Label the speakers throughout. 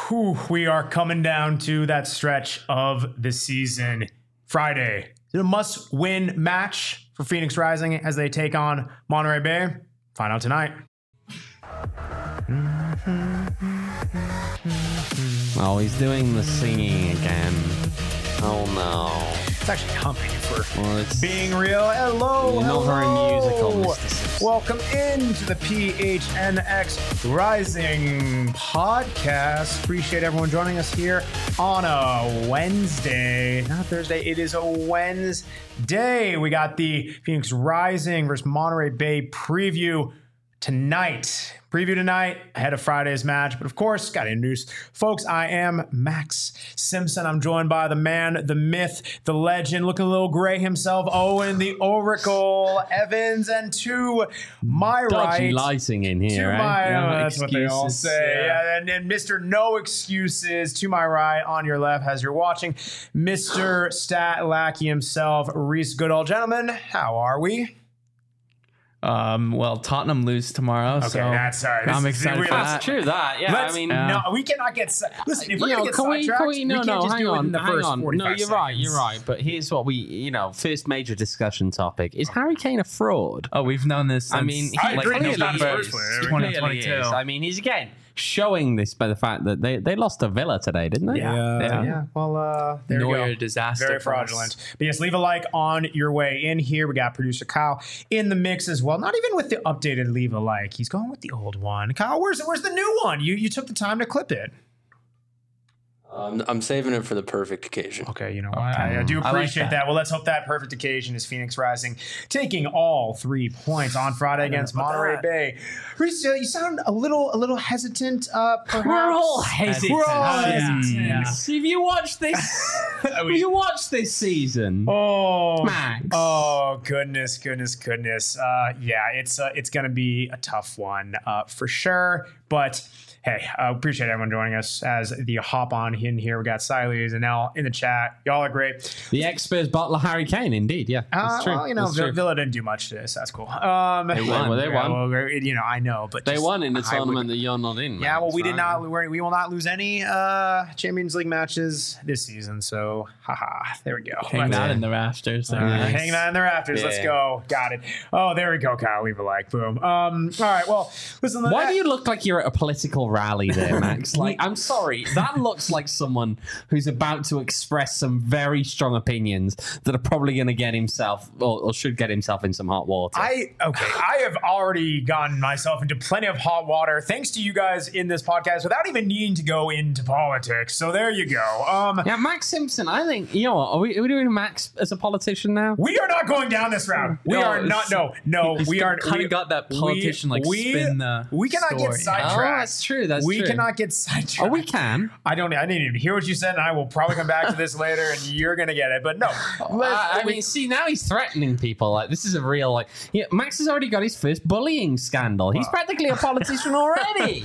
Speaker 1: We are coming down to that stretch of the season. Friday, a must-win match for Phoenix Rising as they take on Monterey Bay. Find out tonight.
Speaker 2: Oh, he's doing the singing again. Oh no.
Speaker 1: It's actually humming for
Speaker 2: it's
Speaker 1: being real. Hello,
Speaker 2: You're not very musical, Mr. Simpson.
Speaker 1: Welcome into the PHNX Rising podcast. Appreciate everyone joining us here on a Wednesday. Not Thursday, it is a Wednesday. We got the Phoenix Rising versus Monterey Bay preview tonight. Ahead of Friday's match. But of course, got to introduce folks. I am Max Simpson. I'm joined by the man, the myth, the legend, looking a little gray himself, Owen the Oracle Evans, and to my
Speaker 2: dodgy
Speaker 1: right,
Speaker 2: lighting in here,
Speaker 1: to
Speaker 2: right?
Speaker 1: my that's what they all say. Yeah. And Mr. No Excuses to my right, on your left, as you're watching, Mr. Stat Lackey himself, Reese Goodall. Gentlemen, how are we?
Speaker 3: Well, Tottenham lose tomorrow,
Speaker 1: okay,
Speaker 3: so
Speaker 1: that's sorry.
Speaker 3: I'm excited for
Speaker 2: That's
Speaker 3: that.
Speaker 2: true, that. Yeah,
Speaker 1: No, we cannot get... Listen, if we're going to get sidetracked, we can't just do it in the first 45
Speaker 2: No, you're
Speaker 1: seconds.
Speaker 2: you're right. But here's what first major discussion topic. Is Harry Kane a fraud?
Speaker 3: Oh, we've known this since,
Speaker 1: I agree, he's not the first player.
Speaker 3: 2022.
Speaker 2: I mean, he's again showing this by the fact that they lost to Villa today, didn't they?
Speaker 1: Yeah. Well, there you
Speaker 3: Neuer
Speaker 1: go.
Speaker 3: disaster.
Speaker 1: Very
Speaker 3: for us.
Speaker 1: fraudulent. But yes, leave a like on your way in here. We got producer Kyle in the mix as well. Not even with the updated leave a like. He's going with the old one. Kyle, where's the new one? You took the time to clip it.
Speaker 4: I'm saving it for the perfect occasion.
Speaker 1: Okay, you know what? I do appreciate that. Well, let's hope that perfect occasion is Phoenix Rising taking all 3 points on Friday against Monterey Bay. Reese, you sound a little hesitant. Perhaps.
Speaker 2: We're all hesitant.
Speaker 1: We're all hesitant.
Speaker 3: Yeah.
Speaker 2: Have you watched this? Have you watched this season?
Speaker 1: Oh,
Speaker 2: Max.
Speaker 1: Oh, goodness. Yeah, it's going to be a tough one for sure. But hey, I appreciate everyone joining us as the hop on in here. We got Siles and L in the chat. Y'all are great.
Speaker 2: The ex-Spurs butler Harry Kane, indeed. Yeah, that's true.
Speaker 1: Well,
Speaker 2: That's true.
Speaker 1: Villa didn't do much to this. That's cool.
Speaker 2: They won. Well, they won.
Speaker 1: Well, I know, but
Speaker 2: They won in the tournament that you're not in.
Speaker 1: Yeah, well, we did
Speaker 2: right?
Speaker 1: not. We will not lose any Champions League matches this season. So, there we go.
Speaker 3: Hanging out in the rafters.
Speaker 1: Hanging out in the rafters. Let's go. Got it. Oh, there we go, Kyle. Leave a like. Boom. All right. Well, listen.
Speaker 2: Why do you look like you're at a political rally there, Max? Like, I'm sorry. That looks like someone who's about to express some very strong opinions that are probably going to get himself or should get himself in some hot water.
Speaker 1: I have already gotten myself into plenty of hot water thanks to you guys in this podcast without even needing to go into politics. So there you go.
Speaker 2: Yeah, Max Simpson, I think, you know what, are we doing Max as a politician now?
Speaker 1: We are not going down this route. We are not. No, we are.
Speaker 3: Kind of got that politician spin the
Speaker 1: We cannot get
Speaker 3: story.
Speaker 1: sidetracked.
Speaker 2: Oh, that's true.
Speaker 1: We cannot get sidetracked.
Speaker 2: Oh, we can.
Speaker 1: I didn't even hear what you said, and I will probably come back to this later, and you're gonna get it. But no,
Speaker 2: I mean, see, now he's threatening people. Like, this is a real, Max has already got his first bullying scandal. He's practically a politician already.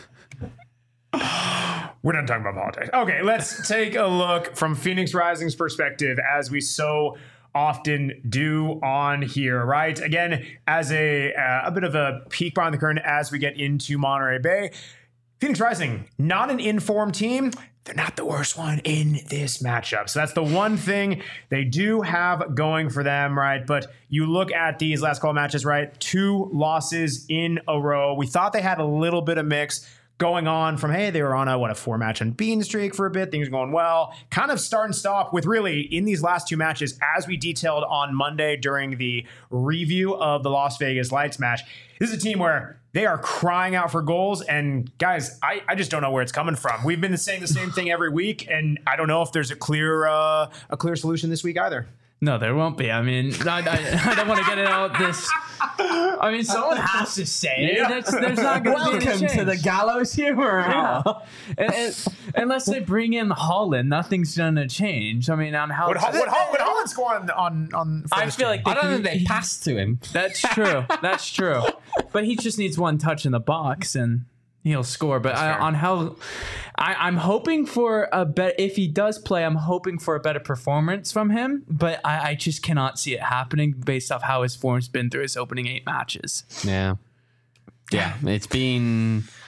Speaker 1: we're not talking about politics. Okay, let's take a look from Phoenix Rising's perspective, as we so often do on here, right? Again, as a bit of a peek behind the curtain as we get into Monterey Bay. Phoenix Rising, not an informed team. They're not the worst one in this matchup. So that's the one thing they do have going for them, right? But you look at these last couple matches, right? 2 losses in a row. We thought they had a little bit of mix going on from, hey, they were on a 4-match unbeaten streak for a bit. Things are going well. Kind of start and stop with really in these last 2 matches, as we detailed on Monday during the review of the Las Vegas Lights match. This is a team where they are crying out for goals. And guys, I just don't know where it's coming from. We've been saying the same thing every week, and I don't know if there's a clear solution this week either.
Speaker 3: No, there won't be. I mean, I don't want to get it out this. I mean, someone has to say it. There's not going to be any
Speaker 2: Welcome to the Gallows Humor Hour.
Speaker 3: Unless they bring in Holland, nothing's going to change. I mean, on how...
Speaker 1: Would Holland score on
Speaker 3: I feel like
Speaker 2: I don't think they passed to him.
Speaker 3: That's true. That's true. But he just needs one touch in the box and he'll score. But on how... I'm hoping for a better... If he does play, I'm hoping for a better performance from him. But I just cannot see it happening based off how his form's been through his opening 8 matches.
Speaker 2: Yeah. It's been...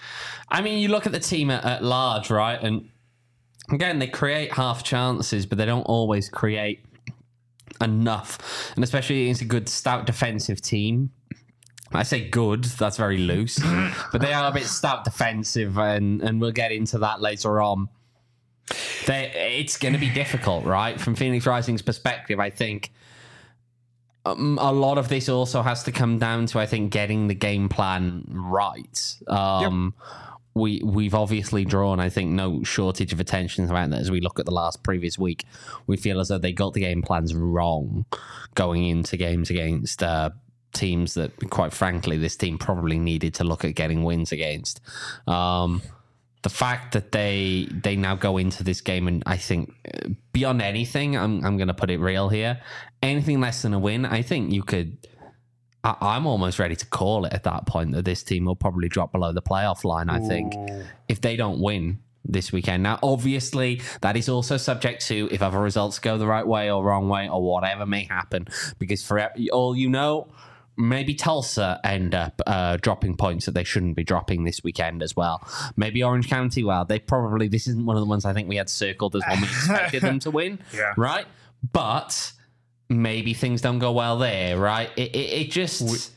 Speaker 2: I mean, you look at the team at large, right? And again, they create half chances, but they don't always create enough. And especially against a good, stout defensive team. I say good, that's very loose. But they are a bit stout defensive, and we'll get into that later on. It's going to be difficult, right? From Phoenix Rising's perspective, I think a lot of this also has to come down to, I think, getting the game plan right. We've obviously drawn, I think, no shortage of attention around that as we look at the previous week. We feel as though they got the game plans wrong going into games against teams that, quite frankly, this team probably needed to look at getting wins against. The fact that they now go into this game, and I think beyond anything, I'm going to put it real here, anything less than a win, I think you could... I'm almost ready to call it at that point that this team will probably drop below the playoff line, I think, if they don't win this weekend. Now, obviously, that is also subject to if other results go the right way or wrong way or whatever may happen. Because for all you know, maybe Tulsa end up dropping points that they shouldn't be dropping this weekend as well. Maybe Orange County, this isn't one of the ones I think we had circled as one we expected them to win, right? But... maybe things don't go well there, right? It just...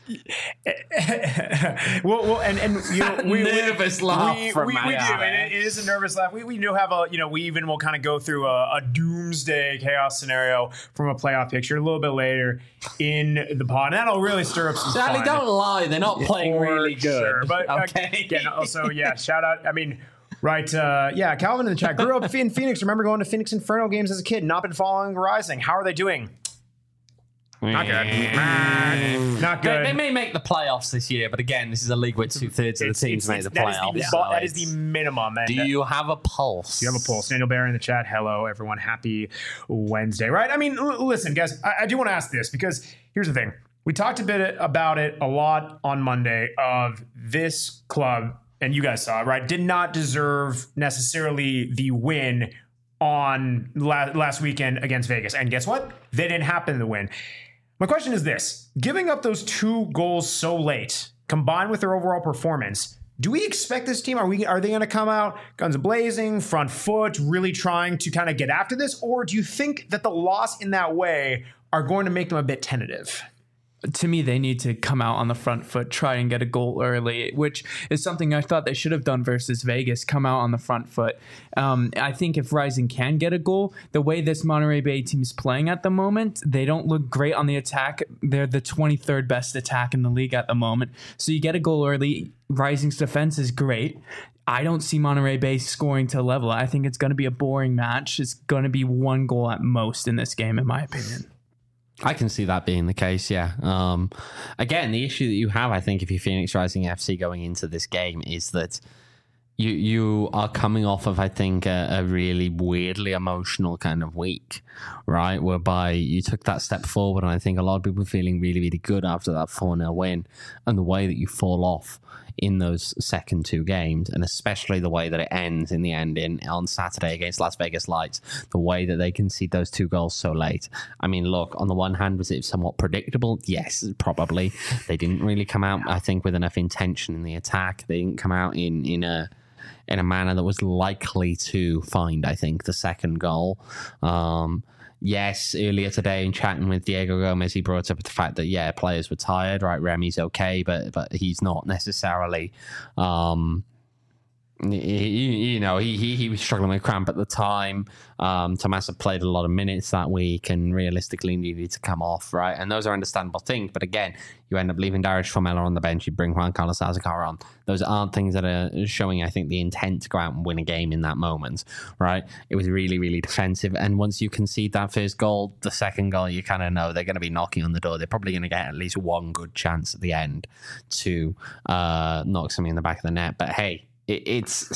Speaker 1: well, and you know,
Speaker 2: nervous laugh from
Speaker 1: we do, and it is a nervous laugh. We do have we even will kind of go through a doomsday chaos scenario from a playoff picture a little bit later in the pod. And that'll really stir up some fun.
Speaker 2: Don't lie, they're not playing really good.
Speaker 1: Sure. But
Speaker 2: okay.
Speaker 1: Again, also, shout out. I mean... right, Calvin in the chat. Grew up in Phoenix. Remember going to Phoenix Inferno games as a kid. Not been following Rising. How are they doing? Not good. Not good.
Speaker 2: They may make the playoffs this year, but again, this is a league where 2/3 of the teams make the playoffs.
Speaker 1: That is the minimum.
Speaker 2: Do you have a pulse?
Speaker 1: Do you have a pulse? Daniel Barry in the chat. Hello, everyone. Happy Wednesday, right? I mean, listen, guys, I do want to ask this because here's the thing. We talked a bit about it a lot on Monday of this club, and you guys saw it, right? Did not deserve necessarily the win on last weekend against Vegas. And guess what? They didn't happen to win. My question is this. Giving up those 2 goals so late, combined with their overall performance, do we expect this team, are they going to come out guns blazing, front foot, really trying to kind of get after this? Or do you think that the loss in that way are going to make them a bit tentative?
Speaker 3: To me, they need to come out on the front foot, try and get a goal early, which is something I thought they should have done versus Vegas, come out on the front foot. I think if Rising can get a goal, the way this Monterey Bay team is playing at the moment, they don't look great on the attack. They're the 23rd best attack in the league at the moment. So you get a goal early. Rising's defense is great. I don't see Monterey Bay scoring to level. I think it's going to be a boring match. It's going to be 1 goal at most in this game, in my opinion.
Speaker 2: I can see that being the case, yeah. Again, the issue that you have, I think, if you're Phoenix Rising FC going into this game is that you are coming off of, I think, a really weirdly emotional kind of week, right? Whereby you took that step forward, and I think a lot of people are feeling really, really good after that 4-0 win, and the way that you fall off in those second 2 games, and especially the way that it ends in the end on Saturday against Las Vegas Lights, the way that they concede those 2 goals so late. I mean, look, on the one hand, was it somewhat predictable? Yes, probably. They didn't really come out, I think, with enough intention in the attack. They didn't come out in a manner that was likely to find, I think, the second goal. Yes, earlier today in chatting with Diego Gomez, he brought up the fact that, players were tired, right? Remy's okay, but he's not necessarily... He was struggling with cramp at the time. Tomasa played a lot of minutes that week and realistically needed to come off, right? And those are understandable things. But again, you end up leaving Darius Formella on the bench. You bring Juan Carlos Azakar on. Those aren't things that are showing, I think, the intent to go out and win a game in that moment, right? It was really, really defensive. And once you concede that first goal, the second goal, you kind of know they're going to be knocking on the door. They're probably going to get at least 1 good chance at the end to knock something in the back of the net. But hey, it's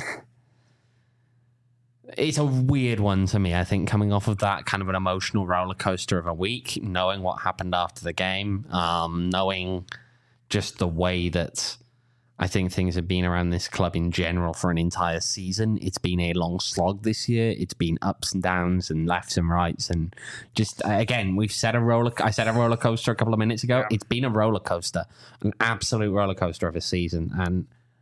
Speaker 2: a weird one to me, I think, coming off of that kind of an emotional roller coaster of a week, knowing what happened after the game, knowing just the way that I think things have been around this club in general for an entire season. It's been a long slog this year. It's been ups and downs and lefts and rights. And just, again, I said a roller coaster a couple of minutes ago. Yeah. It's been a roller coaster, an absolute roller coaster of a season. And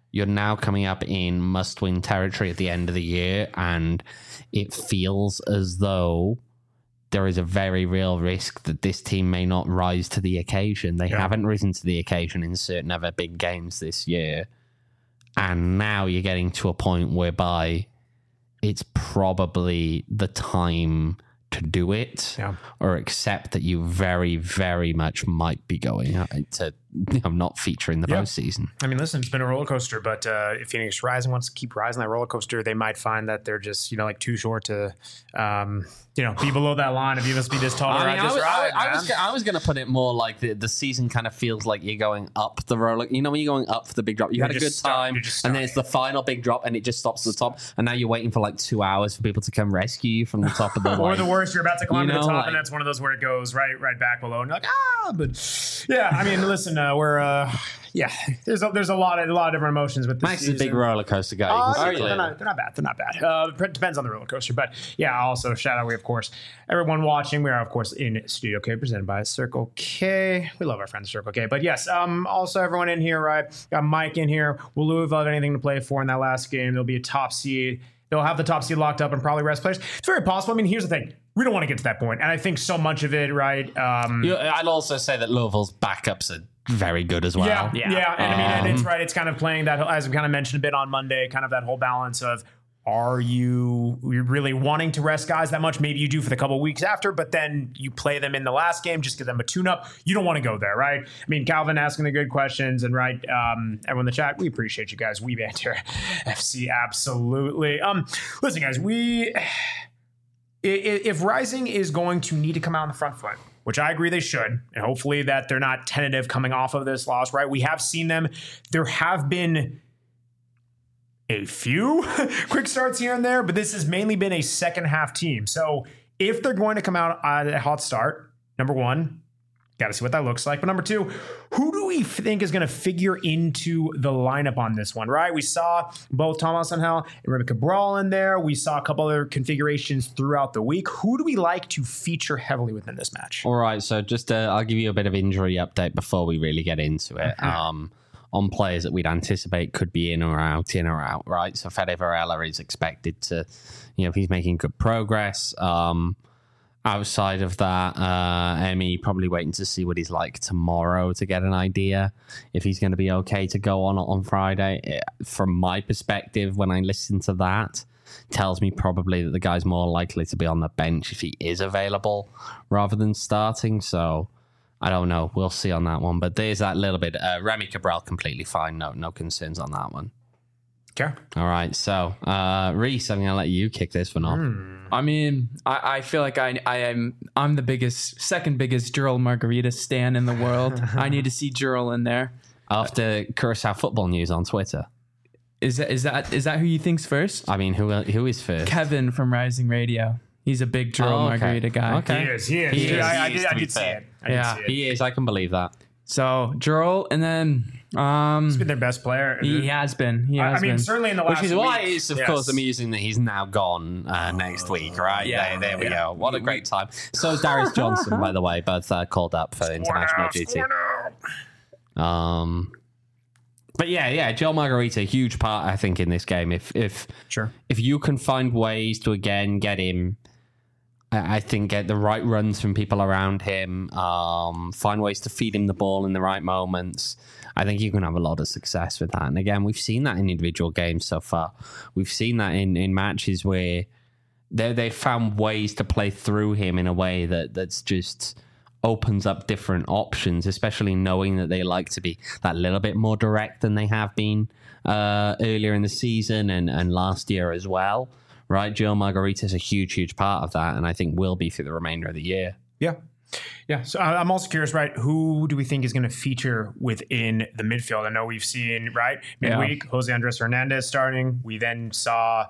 Speaker 2: you're now coming up in must-win territory at the end of the year, and it feels as though there is a very real risk that this team may not rise to the occasion. They haven't risen to the occasion in certain other big games this year. And now you're getting to a point whereby it's probably the time to do it, or accept that you very, very much might be going to not feature in the postseason.
Speaker 1: I mean, listen, it's been a roller coaster, but if Phoenix Rising wants to keep rising that roller coaster, they might find that they're just, like too short to, be below that line. If you must be this tall,
Speaker 2: I was going to put it more like the season kind of feels like you're going up the roller. When you're going up for the big drop, you had a good time, and then it's the final big drop, and it just stops at the top, and now you're waiting for like 2 hours for people to come rescue you from the top of the
Speaker 1: or the worst, you're about to climb to the top, and that's one of those where it goes right back below, and you're like, but yeah, I mean, listen, there's a lot of different emotions with this
Speaker 2: Max is a big roller coaster guy.
Speaker 1: They're not bad. It depends on the roller coaster, but yeah. Also, shout out, of course, everyone watching. We are, of course, in Studio K, presented by Circle K. We love our friends Circle K, but yes, also everyone in here, right? Got Mike in here. Will Louisville have anything to play for in that last game? There'll be a top seed. They'll have the top seed locked up and probably rest players. It's very possible. I mean, here's the thing. We don't want to get to that point. And I think so much of it, right?
Speaker 2: I'd also say that Louisville's backups are very good as well.
Speaker 1: Yeah. And I mean, and it's right. It's kind of playing that, as we kind of mentioned a bit on Monday, kind of that whole balance of, are you really wanting to rest guys that much? Maybe you do for the couple of weeks after, but then you play them in the last game, just give them a tune-up. You don't want to go there, right? I mean, Calvin asking the good questions, and right, everyone in the chat, we appreciate you guys. We banter FC, absolutely. Listen, guys, if Rising is going to need to come out on the front foot, which I agree they should, and hopefully that they're not tentative coming off of this loss, right? We have seen them. There have been a few quick starts here and there, but this has mainly been a second half team. So if they're going to come out at a hot start, number one, got to see what that looks like. But number two, who do we think is going to figure into the lineup on this one, right? We saw both Thomas Angel and Remy Cabral in there. We saw a couple other configurations throughout the week. Who do we like to feature heavily within this match?
Speaker 2: All right, so just I'll give you a bit of injury update before we really get into it. On players that we'd anticipate could be in or out, right? So Fede Varela is expected to, he's making good progress. Outside of that, Emmy probably waiting to see what he's like tomorrow to get an idea if he's going to be okay to go on Friday. From my perspective, when I listen to that, tells me probably that the guy's more likely to be on the bench if he is available rather than starting. So I don't know. We'll see on that one. But there's that little bit. Remy Cabral, completely fine. No concerns on that one.
Speaker 1: Okay.
Speaker 2: All right. So, Reese, I'm going to let you kick this one off.
Speaker 3: I mean, I feel like I'm the second biggest Jurel Margarita stan in the world. I need to see Jurel in there.
Speaker 2: After Curacao Football News on Twitter.
Speaker 3: Is that who you think's first?
Speaker 2: I mean, who is first?
Speaker 3: Kevin from Rising Radio. He's a big Jurel Margarita guy.
Speaker 2: Okay.
Speaker 1: He is. I did see it.
Speaker 2: He is. I can believe that.
Speaker 3: So Jurel, and then
Speaker 1: he's been their best player.
Speaker 3: He has been.
Speaker 1: I mean, certainly in the last
Speaker 2: week. Which is why it's, of course,
Speaker 1: yes,
Speaker 2: amusing that he's now gone next week, right?
Speaker 3: Yeah,
Speaker 2: there we go. What a great time. So is Darius Johnson, by the way, both called up for international duty. But yeah, Joel Margarita, huge part, I think, in this game. If you can find ways to again get him, I think, get the right runs from people around him, find ways to feed him the ball in the right moments, I think you can have a lot of success with that. And again, we've seen that in individual games so far. We've seen that in matches where they found ways to play through him in a way that's just opens up different options, especially knowing that they like to be that little bit more direct than they have been earlier in the season and last year as well. Right, Joel Margarita is a huge part of that, and I think will be through the remainder of the year.
Speaker 1: Yeah. So I'm also curious, right? Who do we think is going to feature within the midfield? I know we've seen, right, midweek, Jose Andres Hernandez starting. We then saw,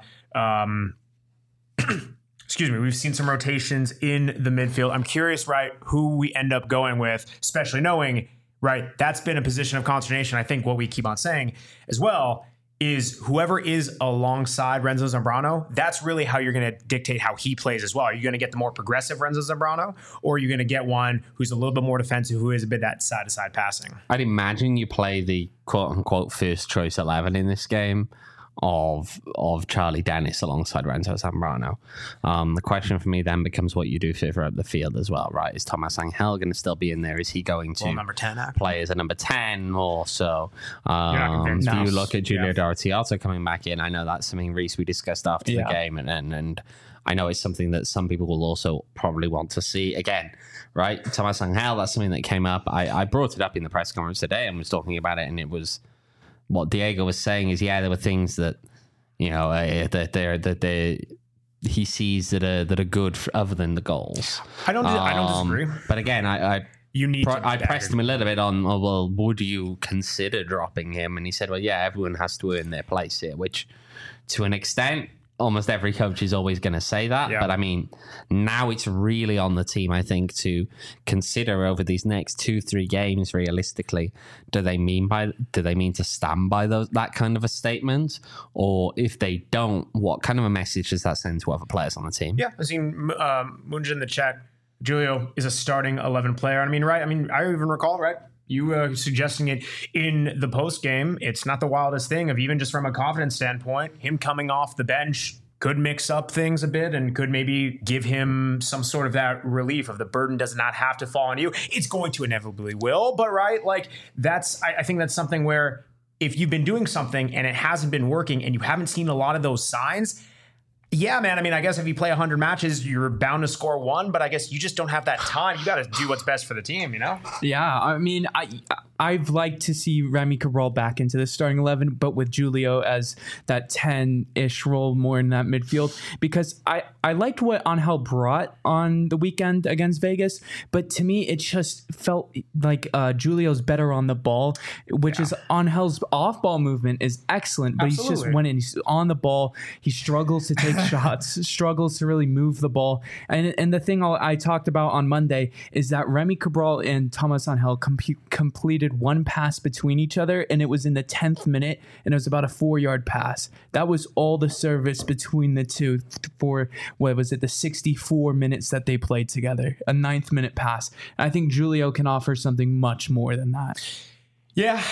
Speaker 1: we've seen some rotations in the midfield. I'm curious, right, who we end up going with, especially knowing, right, that's been a position of consternation. I think what we keep on saying as well is whoever is alongside Renzo Zambrano, that's really how you're going to dictate how he plays as well. Are you going to get the more progressive Renzo Zambrano, or are you going to get one who's a little bit more defensive, who is a bit that side-to-side passing?
Speaker 2: I'd imagine you play the quote-unquote first choice 11 in this game of Charlie Dennis alongside Renzo Zambrano. The question for me then becomes what you do further up the field as well, right? Is Thomas Angel going to still be in there? Is he going to
Speaker 1: number 10
Speaker 2: play as a number 10 or so?
Speaker 1: You're not convinced.
Speaker 2: Do you look at Julio Dorotioto coming back in? I know that's something, Reese, we discussed after the game, and I know it's something that some people will also probably want to see again, right? Thomas Angel, that's something that came up. I brought it up in the press conference today and was talking about it, and it was what Diego was saying is, there were things that, that he sees that are good other than the goals.
Speaker 1: I don't disagree.
Speaker 2: But again, I pressed him a little bit on, would you consider dropping him? And he said, everyone has to earn their place here, which to an extent, almost every coach is always going to say that. Yeah. But I mean, now it's really on the team, I think, to consider over these next 2-3 games realistically, do they mean to stand by that kind of a statement? Or if they don't, what kind of a message does that send to other players on the team?
Speaker 1: Yeah, I've seen Munja in the chat. Julio is a starting 11 player. I mean, right? I mean, I even recall, right? You suggesting it in the post game. It's not the wildest thing of even just from a confidence standpoint, him coming off the bench could mix up things a bit and could maybe give him some sort of that relief of the burden does not have to fall on you. It's going to inevitably will, but right, like I think that's something where if you've been doing something and it hasn't been working and you haven't seen a lot of those signs, yeah, man. I mean, I guess if you play 100 matches, you're bound to score one, but I guess you just don't have that time. You got to do what's best for the team, you know?
Speaker 3: Yeah, I mean, I've liked to see Remy Cabral back into the starting 11, but with Julio as that 10-ish role more in that midfield, because I liked what Angel brought on the weekend against Vegas, but to me, it just felt like Julio's better on the ball, which is Angel's off-ball movement is excellent, but Absolutely. He's just when he's on the ball, he struggles to take shots, struggles to really move the ball. And the thing I talked about on Monday is that Remy Cabral and Thomas Angel completed one pass between each other, and it was in the 10th minute, and it was about a 4-yard pass. That was all the service between the two for, the 64 minutes that they played together, a 9th minute pass. And I think Julio can offer something much more than that.
Speaker 1: Yeah.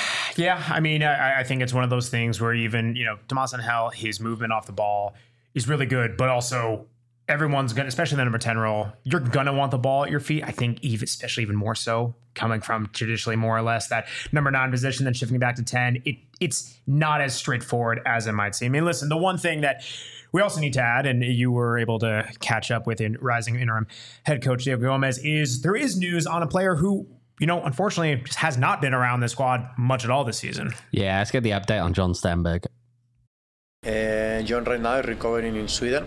Speaker 1: I mean, I think it's one of those things where even, Thomas Angel, his movement off the ball is really good, but also everyone's going to, especially the number 10 role, you're going to want the ball at your feet. I think especially even more so coming from traditionally more or less that number 9 position, then shifting back to 10. It's not as straightforward as it might seem. I mean, listen, the one thing that we also need to add, and you were able to catch up with in rising interim head coach Diego Gomez, is there is news on a player who, unfortunately just has not been around the squad much at all this season.
Speaker 2: Yeah, let's get the update on John Stenberg.
Speaker 5: John right now is recovering in Sweden.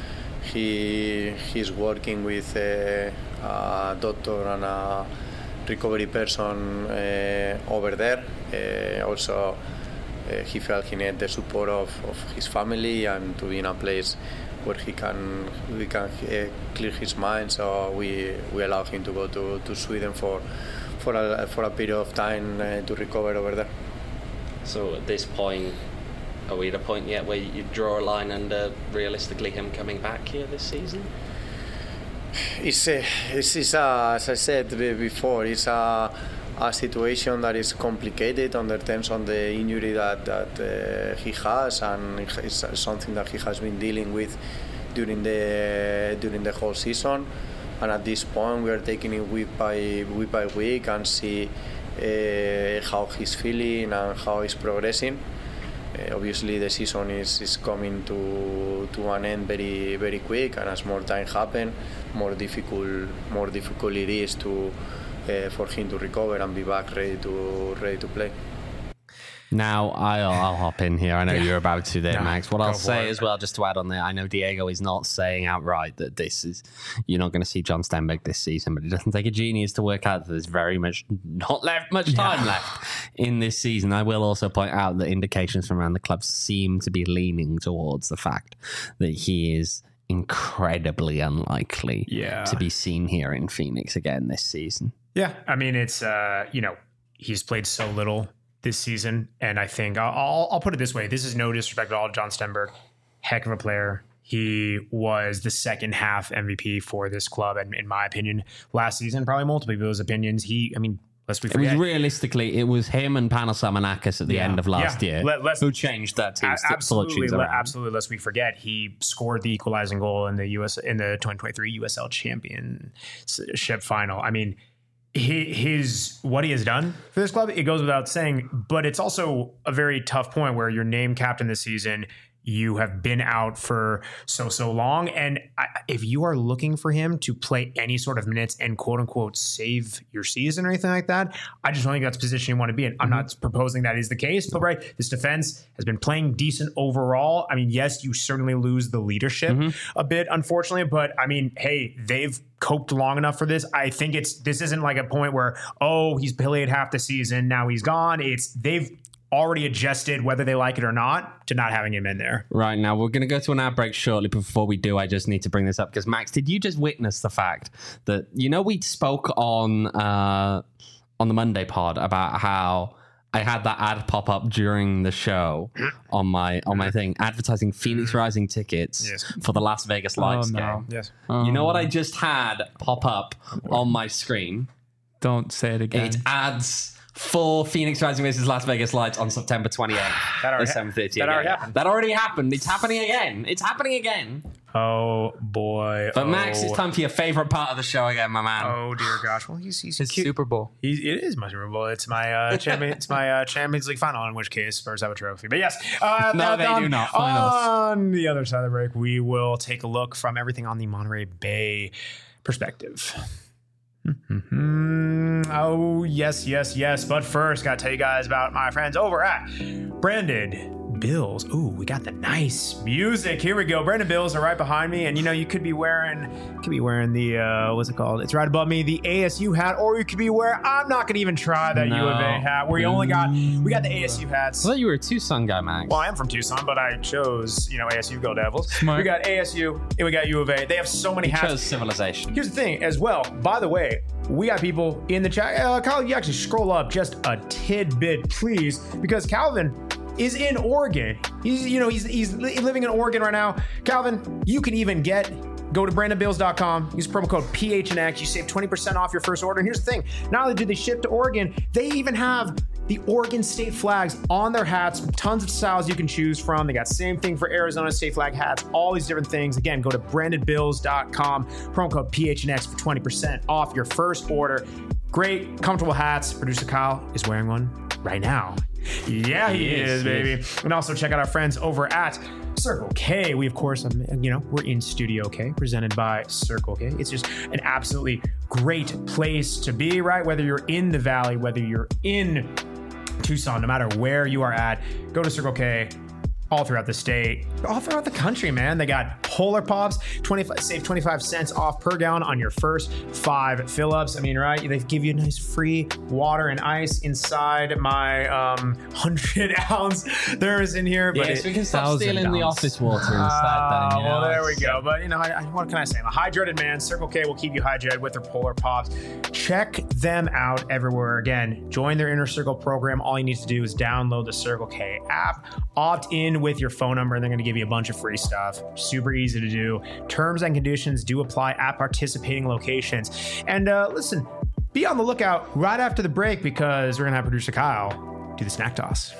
Speaker 5: He's working with a doctor and a recovery person over there. Also, he felt he needed the support of his family and to be in a place where we can clear his mind. So we allowed him to go to Sweden for a period of time to recover over there.
Speaker 4: So at this point, are we at a point yet where you draw a line under realistically him coming back here this season?
Speaker 5: It's as I said before, it's a situation that is complicated under terms of the injury that he has, and it's something that he has been dealing with during the whole season. And at this point, we are taking it week by week and see how he's feeling and how he's progressing. Obviously, the season is coming to an end very, very quick, and as more time happens, more difficult it is for him to recover and be back ready to play.
Speaker 2: Now, I'll hop in here. I know you're about to there, Max. What I'll say as well, just to add on there, I know Diego is not saying outright that you're not going to see John Stenberg this season, but it doesn't take a genius to work out that there's very much time left in this season. I will also point out that indications from around the club seem to be leaning towards the fact that he is incredibly unlikely to be seen here in Phoenix again this season.
Speaker 1: Yeah, I mean, it's, he's played so little this season, and I think I'll put it this way: this is no disrespect at all to John Stenberg, heck of a player. He was the second half MVP for this club, and in my opinion, last season, probably multiple people's opinions. Lest we forget.
Speaker 2: It was realistically, it was him and Panos Samanakis at the end of last year who changed that team's
Speaker 1: absolutely.
Speaker 2: fortunes around.
Speaker 1: Absolutely, lest we forget, he scored the equalizing goal in the 2023 USL Championship final. I mean, what he has done for this club, it goes without saying, but it's also a very tough point where you're named captain this season. You have been out for so long. And if you are looking for him to play any sort of minutes and quote unquote save your season or anything like that, I just don't think that's the position you want to be in. I'm not proposing that is the case, but this defense has been playing decent overall. I mean, yes, you certainly lose the leadership a bit, unfortunately, but I mean, hey, they've coped long enough for this. I think this isn't like a point where, he's played half the season, now he's gone. They've already adjusted, whether they like it or not, to not having him in there.
Speaker 2: Right, now we're going to go to an ad break shortly. Before we do, I just need to bring this up because Max, did you just witness the fact that we spoke on the Monday pod about how I had that ad pop up during the show on my thing, advertising Phoenix Rising tickets for the Las Vegas Lights game.
Speaker 1: Yes.
Speaker 2: You know what I just had pop up on my screen?
Speaker 3: Don't say it again.
Speaker 2: It adds for Phoenix Rising versus Las Vegas Lights on September 28th at 7:30.
Speaker 1: That already happened.
Speaker 2: That already happened. It's happening again.
Speaker 1: Oh boy.
Speaker 2: But Max, it's time for your favorite part of the show again, my man.
Speaker 1: Oh dear gosh. Well, he's
Speaker 3: It's
Speaker 1: cute.
Speaker 3: Super Bowl.
Speaker 1: It is my Super Bowl. It's my Champions League final, in which case Spurs have a trophy. But yes,
Speaker 2: No, they do not. Finals.
Speaker 1: On the other side of the break, we will take a look from everything on the Monterey Bay perspective. Oh, yes. But first, got to tell you guys about my friends over at Branded Bills. Ooh, we got the nice music. Here we go. Branded Bills are right behind me, and you could be wearing the what's it called? It's right above me, the ASU hat, or you could be wearing. I'm not gonna even try that U of A hat. We got the ASU hats.
Speaker 2: I thought you were a Tucson guy, Max.
Speaker 1: Well, I am from Tucson, but I chose ASU Go Devils.
Speaker 3: Smart.
Speaker 1: We got ASU and we got U of A. They have so many hats.
Speaker 2: Chose Civilization.
Speaker 1: Here's the thing as well. By the way, we got people in the chat. Kyle, you actually scroll up just a tidbit, please, because Calvin is in Oregon. He's living in Oregon right now. Calvin, you can even go to brandonbills.com, use promo code PHNX. You save 20% off your first order. And here's the thing, not only do they ship to Oregon, they even have the Oregon state flags on their hats, tons of styles you can choose from. They got same thing for Arizona state flag hats, all these different things. Again, go to brandonbills.com, promo code PHNX for 20% off your first order. Great, comfortable hats. Producer Kyle is wearing one right now. Yeah, he is, baby. And also check out our friends over at Circle K. We, of course, we're in Studio K, presented by Circle K. It's just an absolutely great place to be, right? Whether you're in the Valley, whether you're in Tucson, no matter where you are at, go to Circle K. All throughout the state, all throughout the country, man. They got Polar Pops, save 25 cents off per gallon on your first 5 fill-ups. I mean, right? They give you nice free water and ice inside my 100-ounce. There's in here, but
Speaker 2: we can stop stealing the office water instead.
Speaker 1: Well, there we go. But what can I say? I'm a hydrated man. Circle K will keep you hydrated with their Polar Pops. Check them out everywhere. Again, join their Inner Circle program. All you need to do is download the Circle K app, opt in with your phone number, and they're going to give you a bunch of free stuff. Super easy to do. Terms and conditions do apply at participating locations. And listen, be on the lookout right after the break because we're going to have producer Kyle do the snack toss.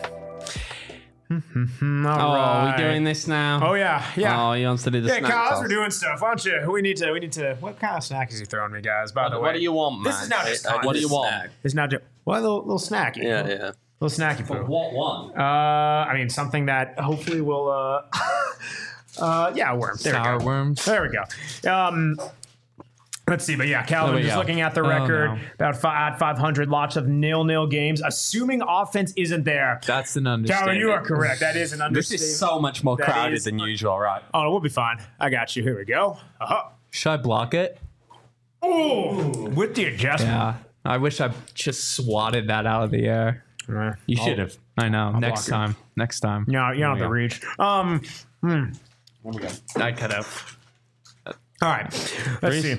Speaker 2: Are we doing this now?
Speaker 1: Oh yeah.
Speaker 2: Oh, he wants to do the snack
Speaker 1: Kyle,
Speaker 2: toss.
Speaker 1: we're doing stuff. Why don't you? We need to. What kind of snack is he throwing me, guys? By the way,
Speaker 2: What do you want, man?
Speaker 1: This is not just
Speaker 2: What do you want?
Speaker 1: It's not just a little snacky.
Speaker 4: Yeah.
Speaker 1: Little snacky food.
Speaker 2: What one?
Speaker 1: I mean, something that hopefully will. Worms.
Speaker 3: Sour worms.
Speaker 1: There we go. Let's see, but yeah, Calvin, just looking at the record, about 500, lots of 0-0 games, assuming offense isn't there.
Speaker 3: That's an understatement.
Speaker 1: Calvin, you are correct. That is an understatement.
Speaker 2: This is so much more crowded than usual, right?
Speaker 1: Oh, we'll be fine. I got you. Here we go.
Speaker 3: Should I block it?
Speaker 1: Oh, with the adjustment.
Speaker 3: Yeah. I wish I just swatted that out of the air.
Speaker 2: You should have.
Speaker 3: I know. Next
Speaker 1: block
Speaker 3: time. Next time.
Speaker 1: No, you don't have to reach.
Speaker 3: I could have.
Speaker 1: All right, let's see.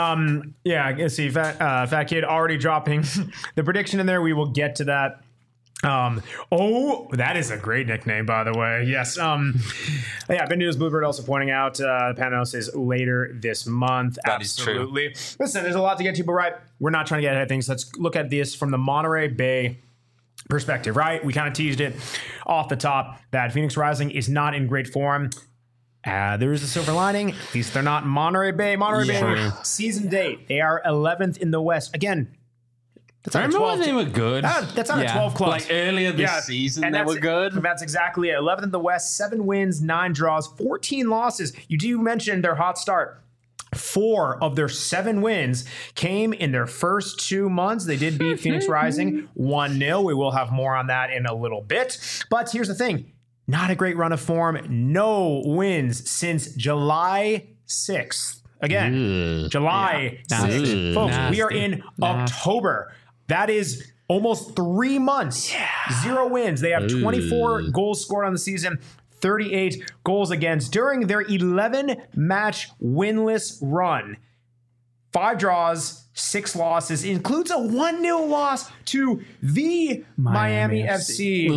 Speaker 1: Let's see. Fat Kid already dropping the prediction in there. We will get to that That is a great nickname, by the way. Yes. Yeah, Ben News Bluebird also pointing out Panos is later this month.
Speaker 2: That is true.
Speaker 1: Absolutely. Listen, there's a lot to get to, but right, we're not trying to get ahead of things. Let's look at this from the Monterey Bay perspective, right? We kind of teased it off the top that Phoenix Rising is not in great form. There is a silver lining. At least they're not Monterey Bay. Bay season date. They are 11th in the West. Again, that's on
Speaker 2: Remember when they were good?
Speaker 1: That's on a 12 club.
Speaker 2: Like earlier this season, they were good.
Speaker 1: That's exactly it. 11th in the West, 7 wins, 9 draws, 14 losses. You do mention their hot start. 4 of their 7 wins came in their first 2 months. They did beat Phoenix Rising 1-0. We will have more on that in a little bit. But here's the thing. Not a great run of form. No wins since July 6th. Again, July 6th. Folks, we are in October. That is almost 3 months. 0 wins. They have 24 goals scored on the season, 38 goals against during their 11-match winless run. 5 draws, 6 losses, includes a 1-0 loss to the Miami FC.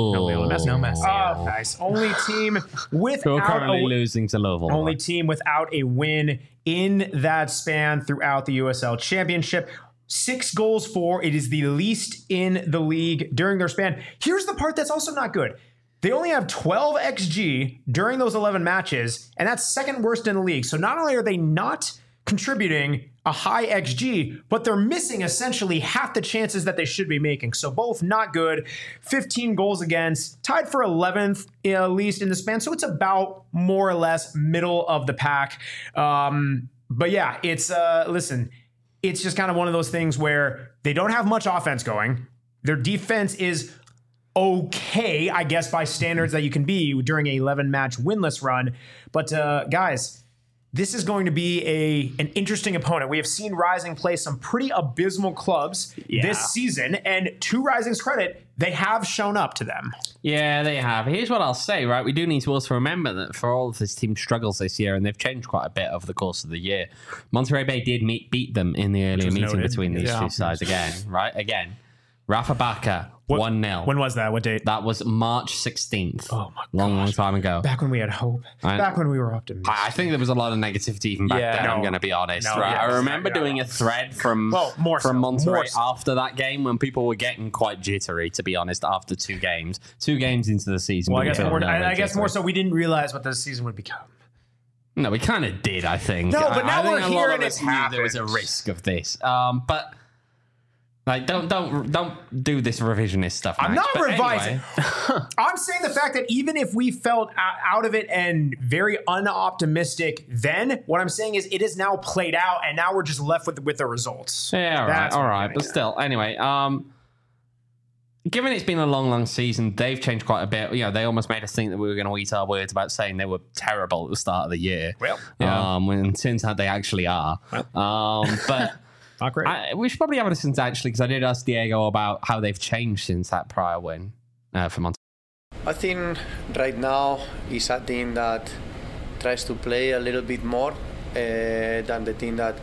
Speaker 3: No mess.
Speaker 1: Oh, nice. Only team without
Speaker 2: currently losing to Louisville.
Speaker 1: Only team without a win in that span throughout the USL Championship. 6 goals for. It is the least in the league during their span. Here's the part that's also not good. They only have 12 XG during those 11 matches, and that's second worst in the league. So not only are they not contributing a high XG, but they're missing essentially half the chances that they should be making. So both not good. 15 goals against, tied for 11th at least in the span. So it's about more or less middle of the pack. But yeah, it's listen, it's just kind of one of those things where they don't have much offense going. Their defense is okay, I guess, by standards that you can be during a 11-match winless run. But guys, this is going to be an interesting opponent. We have seen Rising play some pretty abysmal clubs this season, and to Rising's credit, they have shown up to them.
Speaker 2: Yeah, they have. Here's what I'll say, right? We do need to also remember that for all of this team's struggles this year, and they've changed quite a bit over the course of the year, Monterey Bay did beat them in the earlier meeting between these two sides again, right? Again, Rafa Baca, 1-0.
Speaker 1: When was that? What date?
Speaker 2: That was March 16th.
Speaker 1: Oh my god.
Speaker 2: Long time ago.
Speaker 1: Back when we had hope. Back when we were optimistic.
Speaker 2: I think there was a lot of negativity even back then, I'm going to be honest. I remember doing a thread from Monterey after that game when people were getting quite jittery, to be honest, after 2 games. 2 games into the season.
Speaker 1: Well, I guess more so we didn't realize what the season would become.
Speaker 2: No, we kind of did, I think.
Speaker 1: No, but now we're here and it's happened.
Speaker 2: There was a risk of this. But... like, don't do this revisionist stuff, Max.
Speaker 1: I'm not
Speaker 2: but
Speaker 1: revising.
Speaker 2: Anyway.
Speaker 1: I'm saying the fact that even if we felt out of it and very unoptimistic then, what I'm saying is it is now played out and now we're just left with the results.
Speaker 2: Yeah, all right. But still, anyway, given it's been a long season, they've changed quite a bit. You know, they almost made us think that we were going to eat our words about saying they were terrible at the start of the year.
Speaker 1: Well,
Speaker 2: when it turns out they actually are. But...
Speaker 1: not great.
Speaker 2: We should probably have a listen to actually, because I did ask Diego about how they've changed since that prior win for Monterey.
Speaker 5: I think right now is a team that tries to play a little bit more than the team that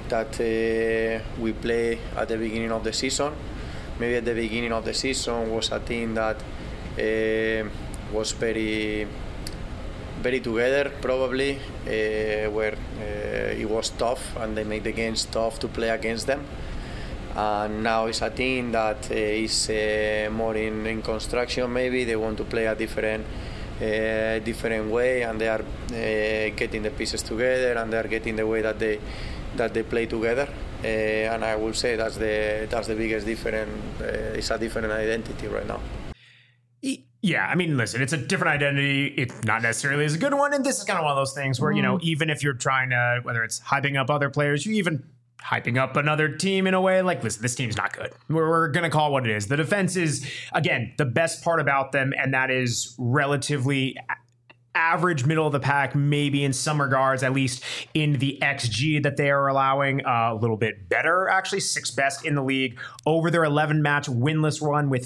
Speaker 5: we play at the beginning of the season. Maybe at the beginning of the season was a team that was very together, probably, where it was tough and they make the games tough to play against them. And now it's a team that is more in construction. Maybe they want to play a different way, and they are getting the pieces together, and they are getting the way that they play together. And I will say that's the biggest difference. It's a different identity right now.
Speaker 1: Yeah, I mean, listen, it's a different identity. It's not necessarily as a good one. And this is kind of one of those things where, you know, even if you're trying to, whether it's hyping up other players, you even hyping up another team in a way, like, listen, this team's not good. We're going to call it what it is. The defense is, again, the best part about them, and that is relatively average, middle of the pack, maybe in some regards, at least in the XG that they are allowing, a little bit better, actually, 6th best in the league over their 11-match winless run with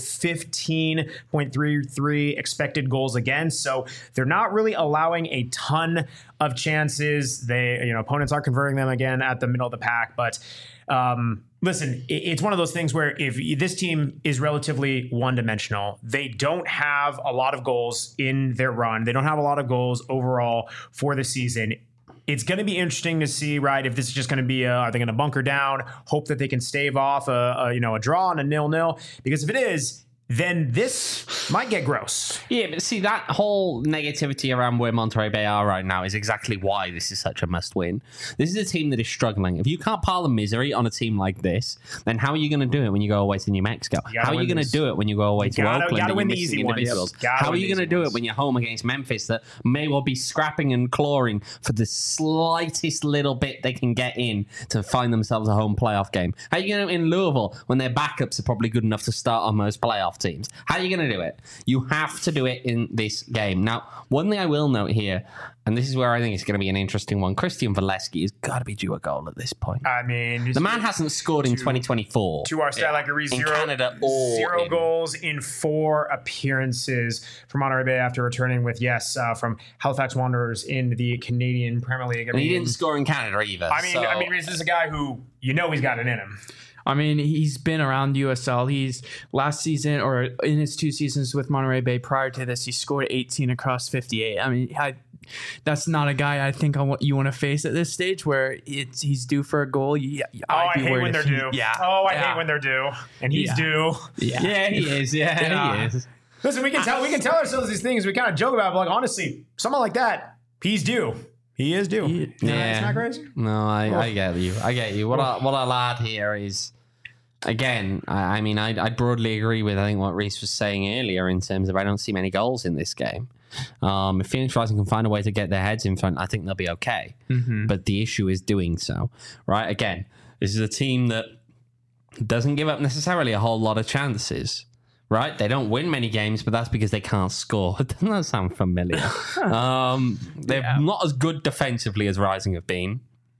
Speaker 1: 15.33 expected goals against. So they're not really allowing a ton of chances. Opponents are converting them again at the middle of the pack, but listen, it's one of those things where if this team is relatively one-dimensional, they don't have a lot of goals in their run. They don't have a lot of goals overall for the season. It's going to be interesting to see, right, if this is just going to be, are they going to bunker down, hope that they can stave off a draw and a 0-0? Because if it is, then this might get gross.
Speaker 2: Yeah, but see, that whole negativity around where Monterrey Bay are right now is exactly why this is such a must-win. This is a team that is struggling. If you can't pile the misery on a team like this, then how are you going to do it when you go away to New Mexico? How are you going to do it when you go away to Oakland?
Speaker 1: You got to
Speaker 2: and
Speaker 1: win
Speaker 2: you're
Speaker 1: the easy
Speaker 2: missing
Speaker 1: ones.
Speaker 2: individuals? How are you going to do it when you're home against Memphis that may well be scrapping and clawing for the slightest little bit they can get in to find themselves a home playoff game? How are you going to in Louisville when their backups are probably good enough to start on most playoff teams? How are you going to do it? You have to do it in this game. Now, one thing I will note here, and this is where I think it's going to be an interesting one, Christian Valesky has got to be due a goal at this point.
Speaker 1: I mean,
Speaker 2: the man hasn't scored in 2024.
Speaker 1: To our stat like
Speaker 2: in Canada or
Speaker 1: zero goals in 4 appearances for Monterrey Bay after returning with, from Halifax Wanderers in the Canadian Premier League.
Speaker 2: And he didn't score in Canada either.
Speaker 1: I mean, this is a guy who, he's got it in him.
Speaker 3: I mean, he's been around USL. He's last season or in his 2 seasons with Monterrey Bay prior to this, he scored 18 across 58. I mean, that's not a guy I think you want to face at this stage where he's due for a goal.
Speaker 1: I hate when they're due. I hate when they're due. And he's due.
Speaker 2: Yeah, he is. Yeah, he is.
Speaker 1: Listen, we can tell ourselves these things. We kind of joke about it, but honestly, someone like that, he's due. He is due.
Speaker 2: Yeah.
Speaker 1: It's not crazy.
Speaker 2: No, I get you. What I'll add here is, again, I broadly agree with what Reese was saying earlier in terms of I don't see many goals in this game. If Phoenix Rising can find a way to get their heads in front, I think they'll be okay. Mm-hmm. But the issue is doing so, right? Again, this is a team that doesn't give up necessarily a whole lot of chances, right? They don't win many games, but that's because they can't score. Doesn't that sound familiar? They're not as good defensively as Rising have been.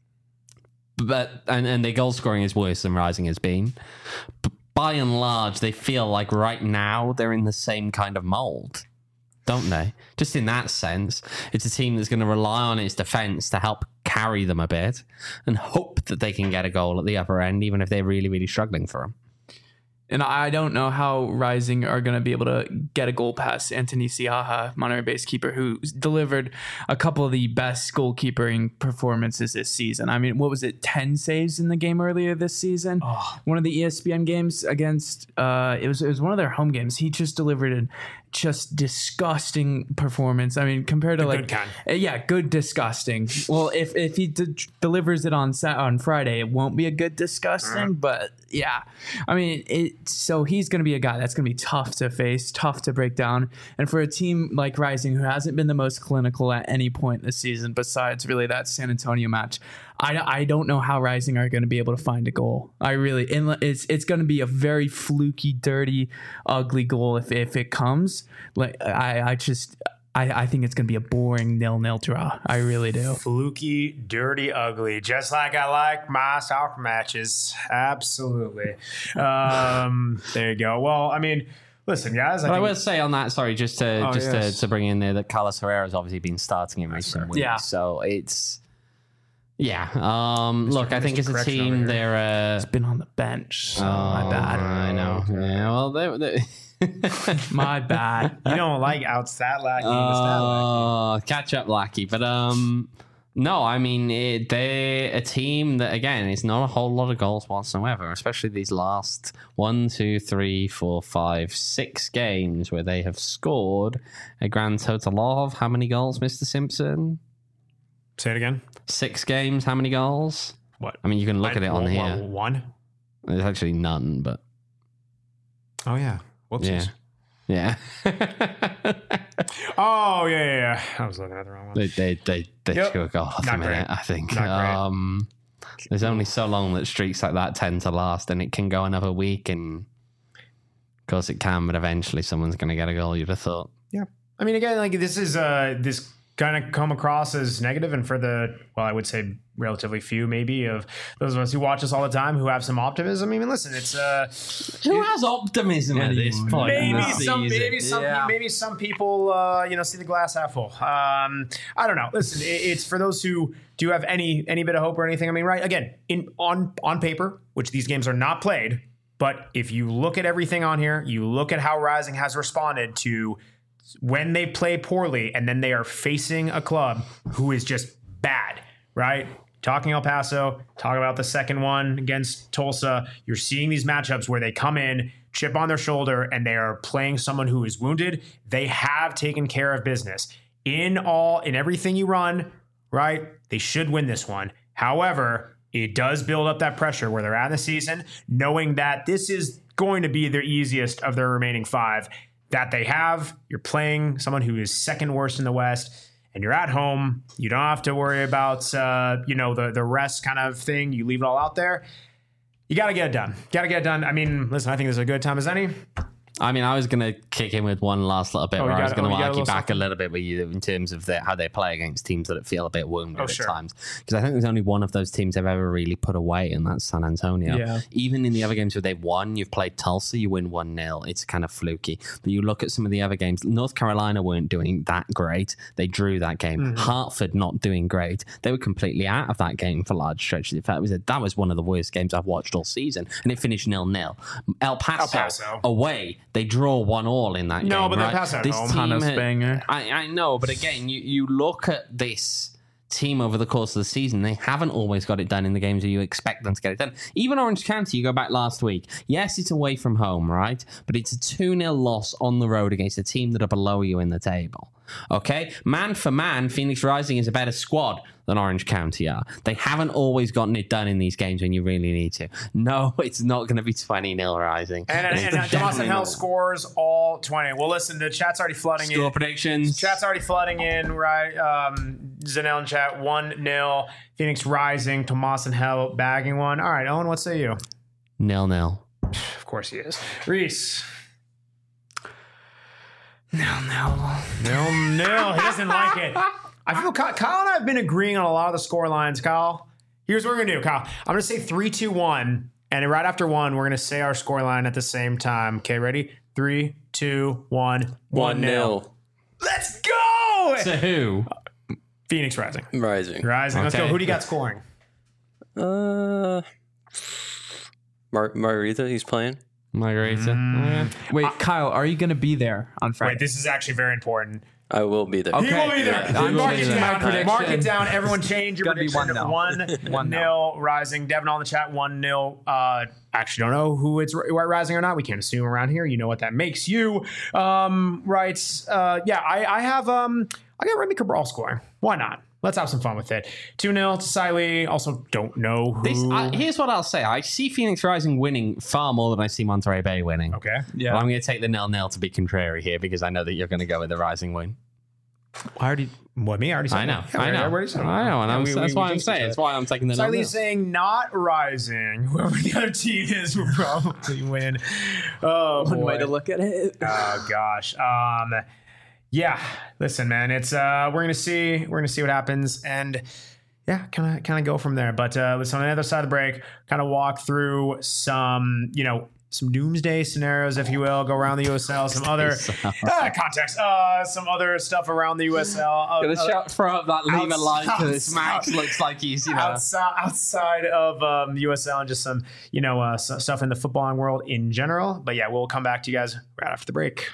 Speaker 2: But and their goal scoring is worse than Rising has been. But by and large, they feel like right now they're in the same kind of mold, don't they? Just in that sense, it's a team that's going to rely on its defense to help carry them a bit and hope that they can get a goal at the upper end, even if they're really, really struggling for them.
Speaker 3: And I don't know how Rising are going to be able to get a goal past Anthony Siaha, Monterrey Bay's keeper, who delivered a couple of the best goalkeeping performances this season. I mean, what was it, 10 saves in the game earlier this season? Oh. One of the ESPN games against, it was one of their home games. He just delivered a just disgusting performance. I mean, compared to
Speaker 1: good kind.
Speaker 3: Good disgusting. Well, if he delivers it on Friday, it won't be a good disgusting, but yeah. I mean, so he's going to be a guy that's going to be tough to face, tough to break down. And for a team like Rising, who hasn't been the most clinical at any point this season, besides really that San Antonio match, I don't know how Rising are going to be able to find a goal. It's going to be a very fluky, dirty, ugly goal if it comes. Like I think it's going to be a boring 0-0 draw. I really do.
Speaker 1: Fluky, dirty, ugly. Just like I like my soccer matches. Absolutely. There you go. Well, I mean, listen, guys.
Speaker 2: I will say on that, sorry, to bring in there that Carlos Herrera has obviously been starting in recent weeks. Yeah. So it's... Yeah. Look, I think as a team, they're...
Speaker 3: It's been on the bench. So my bad.
Speaker 2: I know. Yeah, well, they
Speaker 3: my bad.
Speaker 1: You don't like out stat lackey.
Speaker 2: Catch up lackey. But no, I mean, they're a team that, again, it's not a whole lot of goals whatsoever, especially these last 6 games where they have scored a grand total of how many goals, Mr. Simpson?
Speaker 1: Say it again.
Speaker 2: 6 games, how many goals?
Speaker 1: What?
Speaker 2: I mean, you can look at it on here.
Speaker 1: 1?
Speaker 2: There's actually none, but...
Speaker 1: Oh, yeah. Whoopsies.
Speaker 2: Yeah.
Speaker 1: Oh, yeah. I was looking at the wrong one.
Speaker 2: They took a goal at the minute, I think. There's only so long that streaks like that tend to last, and it can go another week, and of course it can, but eventually someone's going to get a goal, you'd have thought.
Speaker 1: Yeah. I mean, again, like this is this kind of come across as negative, and for the, well, I would say relatively few maybe of those of us who watch us all the time who have some optimism. I mean, listen, it's
Speaker 2: who has optimism at this point?
Speaker 1: Maybe some people see the glass half full. I don't know. Listen, it's for those who do have any bit of hope or anything. I mean, right, again, on paper, which these games are not played, but if you look at everything on here, you look at how Rising has responded to when they play poorly and then they are facing a club who is just bad, right? Talking El Paso, talk about the second one against Tulsa. You're seeing these matchups where they come in, chip on their shoulder, and they are playing someone who is wounded. They have taken care of business. In everything you run, right? They should win this one. However, it does build up that pressure where they're at in the season, knowing that this is going to be their easiest of their remaining 5 that they have. You're playing someone who is second worst in the West, and you're at home. You don't have to worry about the rest kind of thing. You leave it all out there. You got to get it done. I mean, listen, I think this is a good time as any.
Speaker 2: I mean, I was going to kick in with one last little bit where I was going to argue back a little bit with you in terms of how they play against teams that feel a bit wounded at times. Because I think there's only one of those teams they've ever really put away, and that's San Antonio. Yeah. Even in the other games where they've won, you've played Tulsa, you win 1-0. It's kind of fluky. But you look at some of the other games, North Carolina weren't doing that great. They drew that game. Mm-hmm. Hartford not doing great. They were completely out of that game for large stretches. In fact, that was one of the worst games I've watched all season, and it finished 0-0. El Paso. Away. They draw 1-1 in that game.
Speaker 1: No, but
Speaker 2: right?
Speaker 1: they pass at
Speaker 3: this
Speaker 1: home.
Speaker 3: Banger.
Speaker 2: I know, but again, you look at this team over the course of the season, they haven't always got it done in the games where you expect them to get it done. Even Orange County, you go back last week. Yes, it's away from home, right? But it's a 2-0 loss on the road against a team that are below you in the table. Okay? Man for man, Phoenix Rising is a better squad than Orange County are. They haven't always gotten it done in these games when you really need to. No, it's not going to be 20-0 Rising.
Speaker 1: And Dawson Hill scores all 20. Well, listen, the chat's already flooding in.
Speaker 2: Score predictions.
Speaker 1: Chat's already flooding in, right? Zanel in chat, 1-0. Phoenix Rising, Tomas and Hell bagging one. All right, Owen, what say you?
Speaker 2: 0-0.
Speaker 1: Of course he is. Reese.
Speaker 3: 0-0.
Speaker 1: 0-0. He doesn't like it. I feel Kyle and I have been agreeing on a lot of the score lines. Kyle, here's what we're going to do, Kyle. I'm going to say 3-2-1, and right after 1, we're going to say our score line at the same time. Okay, ready? 3, 2, 1.
Speaker 4: 1-0.
Speaker 1: Let's go!
Speaker 2: To who?
Speaker 1: Phoenix Rising.
Speaker 4: Rising.
Speaker 1: Let's go. Who do you got scoring?
Speaker 4: Margarita, he's playing.
Speaker 2: Margarita.
Speaker 3: Wait, Kyle, are you going to be there on Friday?
Speaker 1: Wait, this is actually very important.
Speaker 4: I will be there.
Speaker 1: Okay. He will be there.
Speaker 3: Yeah.
Speaker 1: Mark it down. Everyone change your prediction.
Speaker 3: 1-0.
Speaker 1: 1-0 Rising. Devin on the chat, 1-0. Actually don't know who it's Rising or not. We can't assume around here. You know what that makes you. Writes, I got Remy Cabral scoring. Why not? Let's have some fun with it. 2-0 to Siley. Also, don't know who.
Speaker 2: Here's what I'll say. I see Phoenix Rising winning far more than I see Monterey Bay winning.
Speaker 1: Okay.
Speaker 2: Yeah. But I'm going to take the 0-0 to be contrary here because I know that you're going to go with the Rising win.
Speaker 1: I already said
Speaker 2: I know.
Speaker 1: that. I know.
Speaker 2: And that's why I'm saying. That's why I'm taking the 0-0.
Speaker 1: Siley's saying not Rising. Whoever the other team is will probably win. Oh,
Speaker 3: One way to look at it.
Speaker 1: Oh, gosh. Yeah, listen, man. It's we're gonna see what happens, and yeah, kind of go from there. But listen, on the other side of the break, kind of walk through some doomsday scenarios, if you will. Go around the USL, some other context, some other stuff around the USL.
Speaker 2: Gonna throw up that leave a like to this. Max looks like he's
Speaker 1: outside of USL and just some stuff in the footballing world in general. But yeah, we'll come back to you guys right after the break.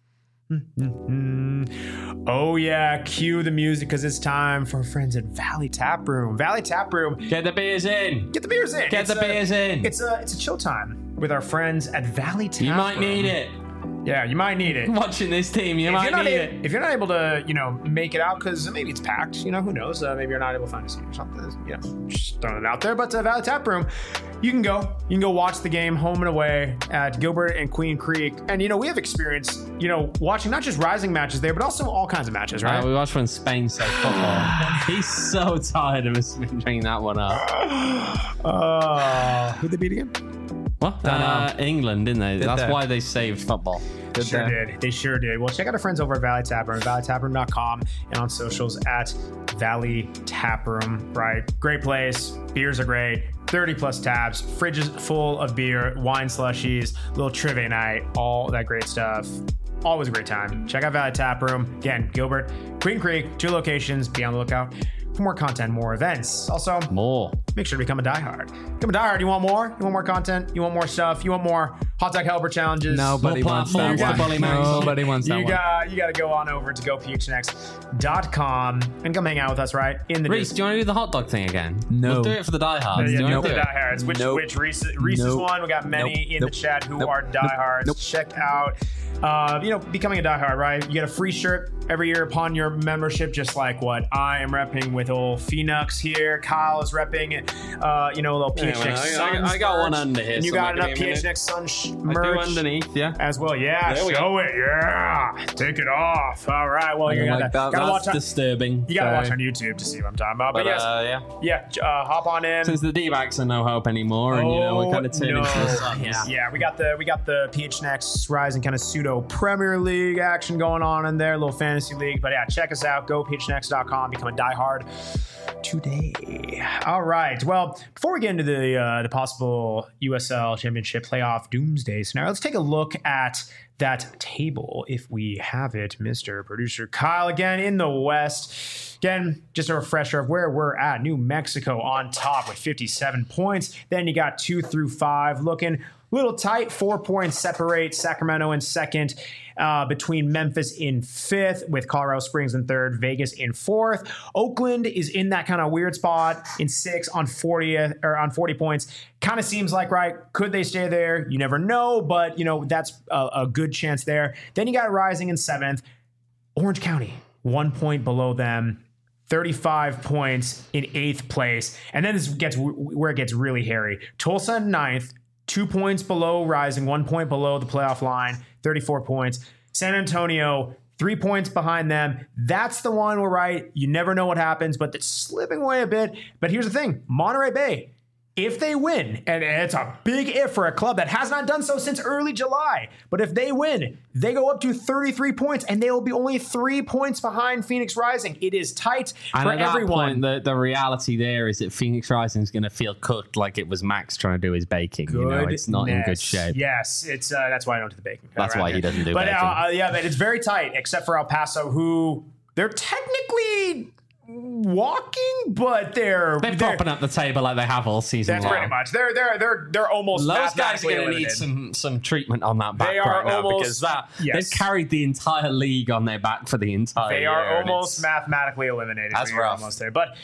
Speaker 1: Oh yeah, cue the music because it's time for our friends at Valley Tap Room. Valley Tap Room.
Speaker 2: Get the beers in.
Speaker 1: Get the beers in.
Speaker 2: Get the beers in.
Speaker 1: It's a chill time with our friends at Valley Tap Room.
Speaker 2: You might need it.
Speaker 1: Yeah, you might need it.
Speaker 2: Watching this team, you might need it.
Speaker 1: If you're not able to, make it out because maybe it's packed, who knows? Maybe you're not able to find a seat or something. Just throwing it out there. But Valley Tap Room, you can go watch the game home and away at Gilbert and Queen Creek. And, we have experience, watching not just Rising matches there, but also all kinds of matches, right?
Speaker 2: We watched when Spain said football. He's so tired of us bringing that one up.
Speaker 1: Who'd they beat again?
Speaker 2: What? England, didn't they? That's why they saved football.
Speaker 1: Sure did. They sure did. Well, check out our friends over at Valley Taproom, valleytaproom.com, and on socials at Valley Taproom, right? Great place. Beers are great. 30 plus taps, fridges full of beer, wine slushies, little trivia night, all that great stuff. Always a great time. Check out Valley Taproom. Again, Gilbert, Queen Creek, 2 locations. Be on the lookout for more content, more events. Also, make sure to become a diehard. Become a diehard. You want more? You want more content? You want more stuff? You want more Hot Dog Helper challenges?
Speaker 3: Nobody wants that one. Nobody wants that one.
Speaker 1: You got to go on over to gophnx.com and come hang out with us, right? In the
Speaker 2: Reese, do you want to do the hot dog thing again?
Speaker 3: No.
Speaker 2: We'll do it for the diehards.
Speaker 1: Yeah, do the diehards. Which Reese's one? We got many in the chat who are diehards. Check out. Becoming a diehard, right? You get a free shirt every year upon your membership, just like what I am repping with old Phoenix here. Kyle is repping, a little PHNX Suns.
Speaker 2: I got one under here.
Speaker 1: And you got enough PHNX Suns merch
Speaker 2: underneath, yeah,
Speaker 1: as well. Yeah, show it. Yeah, take it off. All right. Well, you gotta watch.
Speaker 2: That's disturbing.
Speaker 1: You gotta watch on YouTube to see what I'm talking about. But yes, hop on in.
Speaker 2: Since the D-backs are no hope anymore, and we're kind of turning into the Suns.
Speaker 1: Yeah, we got the PHNX Rising kind of pseudo Premier League action going on in there, a little fantasy league. But yeah, check us out. Go phnx.com. Become a diehard today. All right. Well, before we get into the possible USL Championship playoff doomsday scenario, let's take a look at that table if we have it, Mr. Producer Kyle. Again, in the West. Again, just a refresher of where we're at. New Mexico on top with 57 points. Then you got 2 through 5 looking little tight. 4 points separate Sacramento in second, between Memphis in fifth, with Colorado Springs in third, Vegas in fourth. Oakland is in that kind of weird spot in sixth on 40 points. Kind of seems like, right, could they stay there? You never know, but that's a good chance there. Then you got Rising in seventh. Orange County, 1 point below them. 35 points in 8th place. And then this gets where it gets really hairy. Tulsa in 9th, 2 points below Rising, 1 point below the playoff line, 34 points. San Antonio, 3 points behind them. That's the one where, right, you never know what happens, but it's slipping away a bit. But here's the thing, Monterey Bay, if they win, and it's a big if for a club that has not done so since early July, but if they win, they go up to 33 points, and they will be only 3 points behind Phoenix Rising. It is tight for everyone.
Speaker 2: Point, the reality there is that Phoenix Rising is going to feel cooked like it was Max trying to do his baking. It's not in good shape.
Speaker 1: Yes, it's that's why I don't do the baking.
Speaker 2: That's why he doesn't do baking.
Speaker 1: But it's very tight, except for El Paso, who they're technically walking, but they're
Speaker 2: propping up the table like they have all season long.
Speaker 1: That's pretty much. They're almost.
Speaker 2: Those guys are going to need some treatment on that back right now, because they've carried the entire league on their back for the entire year.
Speaker 1: They are almost mathematically eliminated.
Speaker 2: That's rough.
Speaker 1: Almost there, but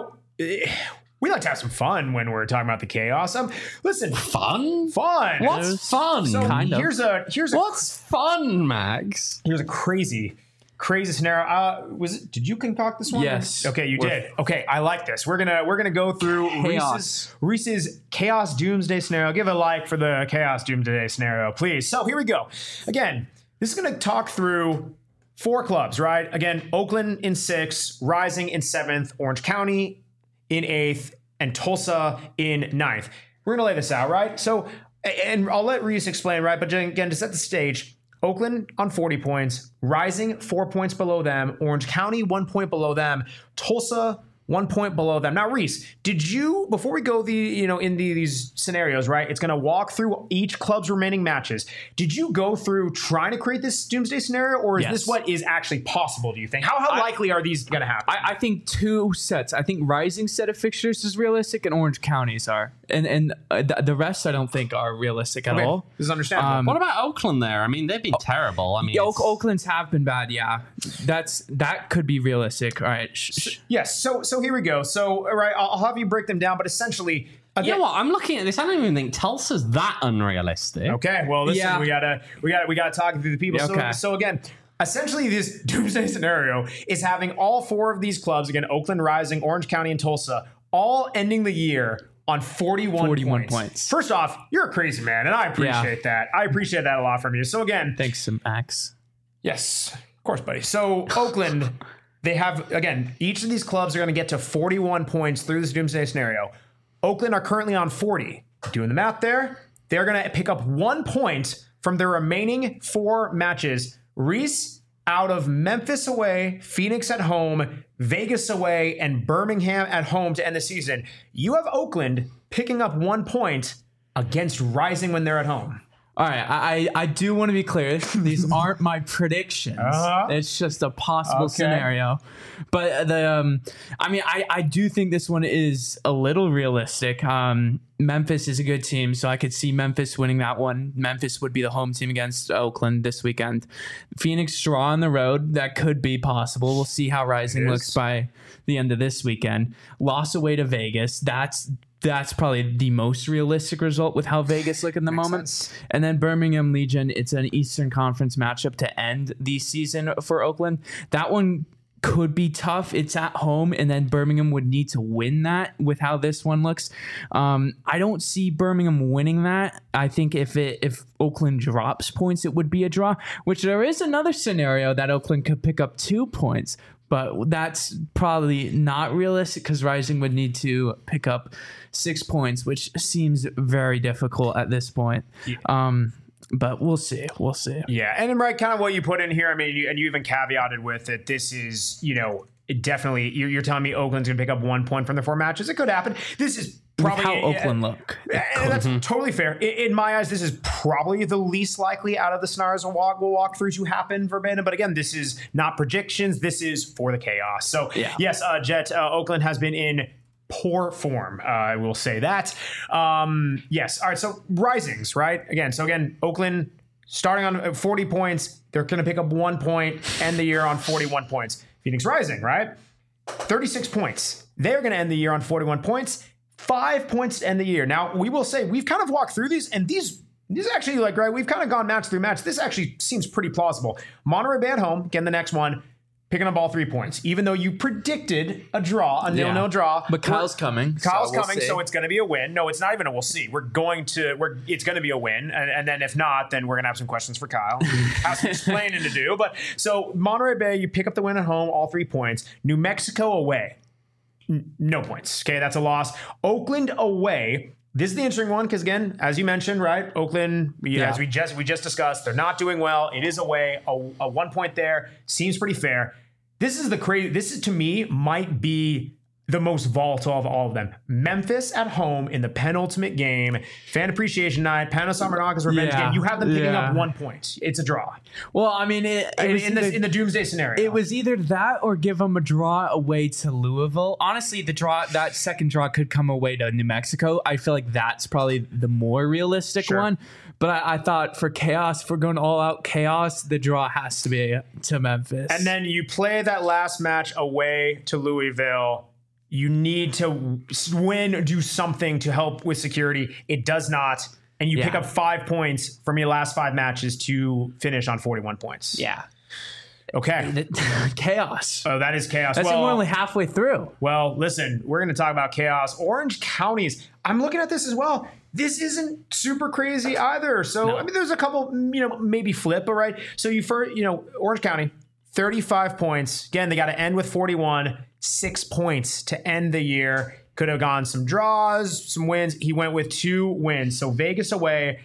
Speaker 1: we like to have some fun when we're talking about the chaos. Listen,
Speaker 2: fun.
Speaker 1: What's fun?
Speaker 2: So
Speaker 1: here's
Speaker 2: what's fun, Max?
Speaker 1: Here's a crazy scenario. Did you concoct this one?
Speaker 3: Yes.
Speaker 1: Okay, you did. Okay, I like this. We're gonna go through Reese's Chaos Doomsday scenario. Give a like for the Chaos Doomsday scenario, please. So here we go. Again, this is gonna talk through 4 clubs, right? Again, Oakland in 6th, Rising in 7th, Orange County in 8th, and Tulsa in 9th. We're gonna lay this out, right? So, and I'll let Reese explain, right? But again, to set the stage, Oakland on 40 points, Rising 4 points below them, Orange County 1 point below them, Tulsa 1 point below them. Now, Reese, did you, before we go in these scenarios, right? It's going to walk through each club's remaining matches. Did you go through trying to create this doomsday scenario, or is this what is actually possible, do you think? How likely are these going to happen?
Speaker 3: I think 2 sets. I think Rising set of fixtures is realistic, and Orange County's are. And the rest I don't think are realistic at all.
Speaker 1: This is understandable.
Speaker 2: What about Oakland there? I mean, they've been terrible. I mean,
Speaker 3: Oakland's have been bad, yeah. That could be realistic. All right.
Speaker 1: Yes, so here we go. So, all right, I'll have you break them down, but essentially,
Speaker 2: you know what? I'm looking at this. I don't even think Tulsa's that unrealistic.
Speaker 1: Okay, well, listen, we gotta talk through the people.
Speaker 3: Okay.
Speaker 1: So again, essentially, this doomsday scenario is having all 4 of these clubs, again, Oakland, Rising, Orange County, and Tulsa, all ending the year on 41 points. First off, you're a crazy man, and I appreciate that. I appreciate that a lot from you. So again,
Speaker 3: thanks, Max.
Speaker 1: Yes, of course, buddy. So Oakland. They have, again, each of these clubs are going to get to 41 points through this doomsday scenario. Oakland are currently on 40. Doing the math there, they're going to pick up 1 point from their remaining 4 matches. Reese, out of Memphis away, Phoenix at home, Vegas away, and Birmingham at home to end the season. You have Oakland picking up 1 point against Rising when they're at home.
Speaker 3: All right, I do want to be clear. These aren't my predictions. It's just a possible scenario. But I do think this one is a little realistic. Memphis is a good team, so I could see Memphis winning that one. Memphis would be the home team against Oakland this weekend. Phoenix draw on the road, that could be possible. We'll see how Rising looks by the end of this weekend. Loss away to Vegas, that's probably the most realistic result with how Vegas look in the moment.
Speaker 1: Sense.
Speaker 3: And then Birmingham Legion, it's an Eastern Conference matchup to end the season for Oakland. That one could be tough. It's at home, and then Birmingham would need to win that with how this one looks. I don't see Birmingham winning that. I think if Oakland drops points, it would be a draw, which there is another scenario that Oakland could pick up 2 points, but that's probably not realistic because Rising would need to pick up 6 points, which seems very difficult at this point. Yeah. But we'll see.
Speaker 1: Yeah, and right, kind of what you put in here. I mean, you even caveated with it. This is, definitely. You're telling me Oakland's going to pick up 1 point from the 4 matches. It could happen. This is probably
Speaker 3: how Oakland look.
Speaker 1: And that's totally fair. In my eyes, this is probably the least likely out of the scenarios we'll walk through to happen verbatim. But again, this is not predictions. This is for the chaos. So yes, Jet, Oakland has been in poor form. I will say that. Yes. All right. So Risings, right? Again, Oakland starting on 40 points. They're going to pick up 1 point, end the year on 41 points. Phoenix Rising, right? 36 points. They're going to end the year on 41 points. 5 points to end the year. Now, we will say we've kind of walked through these, and these actually, right, we've kind of gone match through match. This actually seems pretty plausible. Monterey Bay at home, again, the next one, picking up all 3 points, even though you predicted a draw, a 0-0 draw.
Speaker 3: But Kyle's coming.
Speaker 1: So it's going to be a win. No, it's not even a we'll see. It's going to be a win. And then if not, then we're going to have some questions for Kyle. Has some explaining to do. But so Monterey Bay, you pick up the win at home, all 3 points. New Mexico away, no points. Okay, that's a loss. Oakland away. This is the interesting one because, again, as you mentioned, right, Oakland, as we just discussed, they're not doing well. It is away. A 1 point there seems pretty fair. This is to me might be the most volatile of all of them. Memphis at home in the penultimate game, fan appreciation night, Panos Samaranaka's revenge game. You have them picking up 1 point. It's a draw.
Speaker 3: Well, I mean,
Speaker 1: in the doomsday scenario,
Speaker 3: it was either that or give them a draw away to Louisville. Honestly, that second draw could come away to New Mexico. I feel like that's probably the more realistic one. But I thought for chaos, if we're going all out chaos, the draw has to be to Memphis.
Speaker 1: And then you play that last match away to Louisville. You need to win, do something to help with security. It does not. And you pick up 5 points from your last 5 matches to finish on 41 points.
Speaker 3: Yeah.
Speaker 1: Okay.
Speaker 3: Chaos.
Speaker 1: Oh, that is chaos.
Speaker 3: We're only halfway through.
Speaker 1: Well, listen, we're going to talk about chaos. Orange counties. I'm looking at this as well. This isn't super crazy either. So, I mean, there's a couple, maybe flip, all right? So Orange County, 35 points. Again, they got to end with 41. 6 points to end the year. Could have gone some draws, some wins. He went with 2 wins. So Vegas away,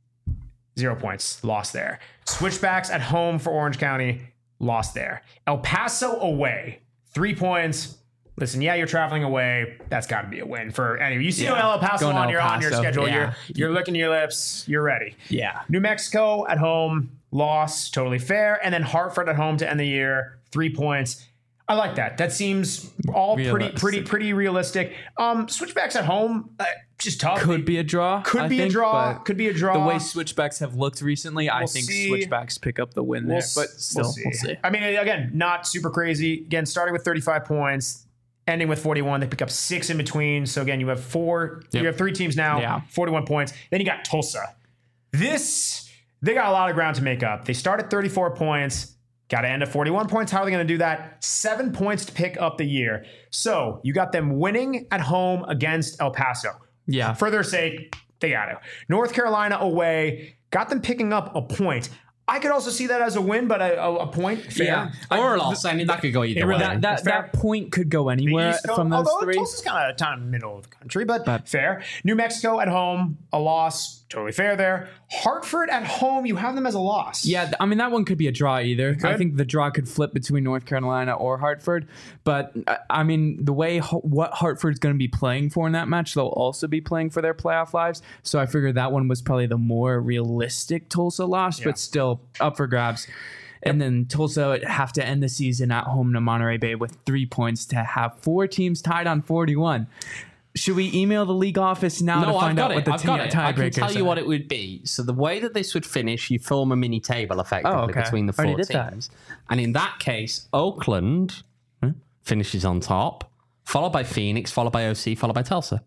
Speaker 1: 0 points. Lost there. Switchbacks at home for Orange County. Lost there. El Paso away, 3 points. Listen, you're traveling away. That's got to be a win for anyway. You see El Paso on your schedule. Yeah. You're licking your lips. You're ready.
Speaker 3: Yeah.
Speaker 1: New Mexico at home, loss, totally fair. And then Hartford at home to end the year, 3 points. I like that. That seems all pretty realistic. Switchbacks at home, just tough.
Speaker 3: Could be a draw.
Speaker 1: Could be a draw.
Speaker 3: The way switchbacks have looked recently, I think switchbacks pick up the win there. But still, we'll see.
Speaker 1: I mean, again, not super crazy. Again, starting with 35 points, ending with 41. They pick up 6 in between. So again, you have 4. Yep. You have 3 teams now. 41 points. Then you got Tulsa. They got a lot of ground to make up. They start at 34 points. Got to end at 41 points. How are they going to do that? 7 points to pick up the year. So you got them winning at home against El Paso.
Speaker 3: Yeah.
Speaker 1: For their sake, they got to. North Carolina away. Got them picking up a point. I could also see that as a win, but a point. Fair.
Speaker 3: Yeah.
Speaker 2: Or a loss. I mean, that could go either way.
Speaker 3: That point could go anywhere
Speaker 1: East Coast,
Speaker 3: from those
Speaker 1: although
Speaker 3: three.
Speaker 1: Tulsa's kind of middle of the country, but fair. New Mexico at home, a loss. Totally fair there. Hartford at home, you have them as a loss.
Speaker 3: Yeah, I mean, that one could be a draw either. I think the draw could flip between North Carolina or Hartford. But, I mean, the way what Hartford's going to be playing for in that match, they'll also be playing for their playoff lives. So I figured that one was probably the more realistic Tulsa loss, but still up for grabs. And then Tulsa would have to end the season at home to Monterey Bay with 3 points to have 4 teams tied on 41. Should we email the league office now to find out what the tiebreakers are?
Speaker 2: I can tell you what it would be. So the way that this would finish, you form a mini table effectively between the 4 teams. And in that case, Oakland finishes on top, followed by Phoenix, followed by OC, followed by Tulsa.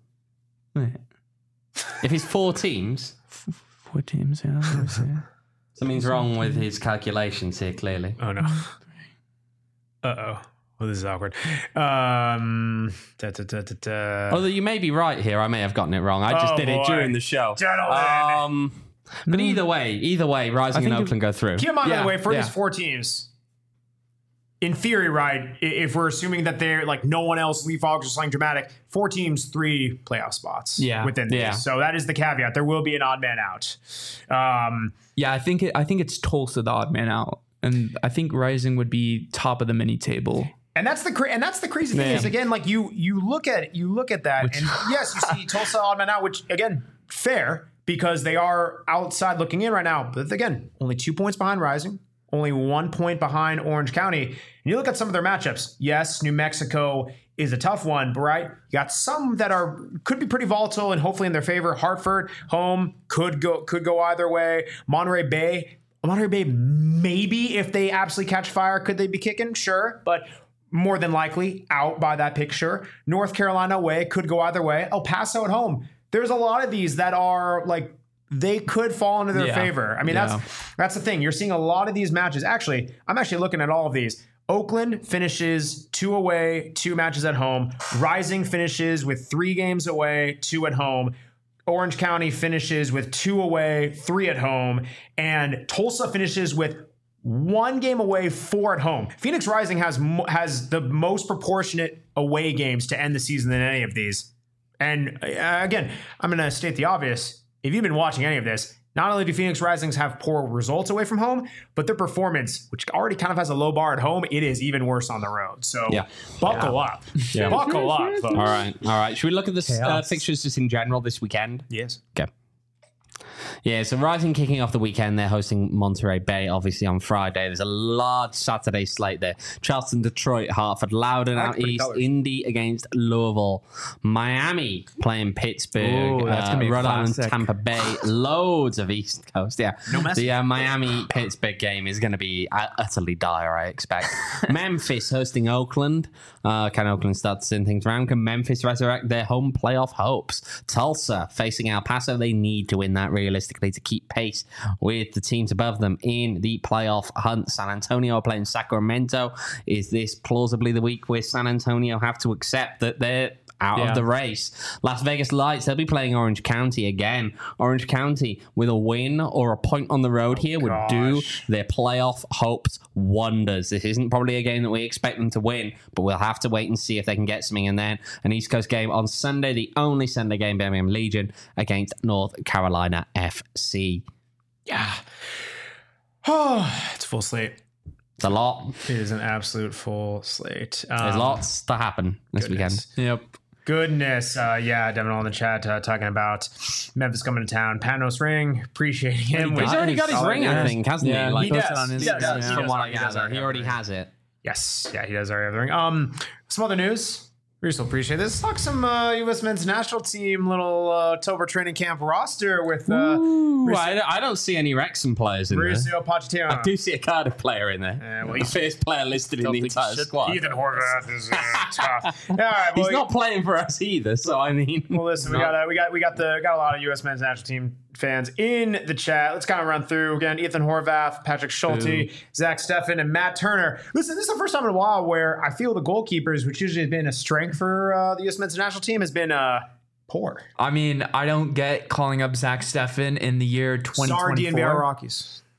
Speaker 2: If it's 4 teams...
Speaker 3: 4 teams, yeah.
Speaker 2: Something's wrong with his calculations here, clearly.
Speaker 1: Oh, no. Uh-oh. Well, this is awkward. Although
Speaker 2: you may be right here. I may have gotten it wrong. I just did it during the show. But either way, Rising and Oakland go through.
Speaker 1: Keep in mind, by the way, for these 4 teams, in theory, right, if we're assuming that they're like no one else, leapfrogs or something dramatic, 4 teams, 3 playoff spots within these. So that is the caveat. There will be an odd man out.
Speaker 3: I think it's Tulsa, the odd man out. And I think Rising would be top of the mini table.
Speaker 1: And that's the crazy thing is, again, like you look at that, and yes, you see Tulsa odd man out, which again, fair, because they are outside looking in right now. But again, only 2 points behind Rising, only 1 point behind Orange County. And you look at some of their matchups. Yes, New Mexico is a tough one, but right, you got some that could be pretty volatile and hopefully in their favor. Hartford home could go either way. Monterey Bay, maybe if they absolutely catch fire, could they be kicking? Sure, but more than likely out by that picture. North Carolina away could go either way. El Paso at home. There's a lot of these that are like they could fall into their favor. I mean, that's the thing. You're seeing a lot of these matches. Actually, I'm actually looking at all of these. Oakland finishes 2 away, 2 matches at home. Rising finishes with 3 games away, 2 at home. Orange County finishes with 2 away, 3 at home. And Tulsa finishes with 1 game away, 4 at home. Phoenix Rising has the most proportionate away games to end the season than any of these. And again, I'm going to state the obvious. If you've been watching any of this, not only do Phoenix Risings have poor results away from home, but their performance, which already kind of has a low bar at home, it is even worse on the road. So buckle up.
Speaker 2: Yeah.
Speaker 1: Buckle up, folks.
Speaker 2: All right. Should we look at the fixtures just in general this weekend?
Speaker 1: Yes.
Speaker 2: Okay. Yeah, so Rising kicking off the weekend. They're hosting Monterey Bay, obviously, on Friday. There's a large Saturday slate there. Charleston, Detroit, Hartford, Loudoun out east, Indy against Louisville, Miami playing Pittsburgh, Rhode Island, Tampa Bay, loads of East Coast. Yeah, the Miami-Pittsburgh game is going to be utterly dire, I expect. Memphis hosting Oakland. Can Oakland start to turn things around? Can Memphis resurrect their home playoff hopes? Tulsa facing El Paso. They need to win that realistically to keep pace with the teams above them in the playoff hunt. San Antonio playing Sacramento. Is this plausibly the week where San Antonio have to accept that they're out of the race? Las Vegas Lights, they'll be playing Orange County again. Orange County with a win or a point on the road here would do their playoff hopes wonders. This isn't probably a game that we expect them to win, but we'll have to wait and see if they can get something. And then an East Coast game on Sunday, the only Sunday game, Birmingham Legion against North Carolina FC.
Speaker 1: Yeah. Oh, it's a full slate.
Speaker 2: It's a lot.
Speaker 1: It is an absolute full slate.
Speaker 2: There's lots to happen this weekend.
Speaker 3: Yep.
Speaker 1: Goodness. Devin all in the chat talking about Memphis coming to town. Panos ring. Appreciating him.
Speaker 2: He's already got his ring, I think, hasn't he? Like,
Speaker 1: he does.
Speaker 2: From what I gather, he already has it.
Speaker 1: Yes. Yeah, he does already have the ring. Some other news. We still appreciate this. Let's talk some U.S. men's national team little October training camp roster with.
Speaker 2: I don't see any Wrexham players in
Speaker 1: Mauricio
Speaker 2: there.
Speaker 1: Pochettino.
Speaker 2: I do see a Cardiff player in there.
Speaker 1: Well,
Speaker 2: he's the first player listed in the entire squad.
Speaker 1: Ethan Horvath is tough. All right,
Speaker 2: he's not playing for us either. So I mean,
Speaker 1: well, listen, we got a lot of U.S. men's national team fans in the chat. Let's kind of run through again. Ethan Horvath, Patrick Schulte, Zach Steffen, and Matt Turner. Listen, this is the first time in a while where I feel the goalkeepers, which usually has been a strength for the U.S. men's national team, has been poor.
Speaker 3: I mean, I don't get calling up Zach Steffen in the year 2024.
Speaker 1: Sorry, DNVR Rockies.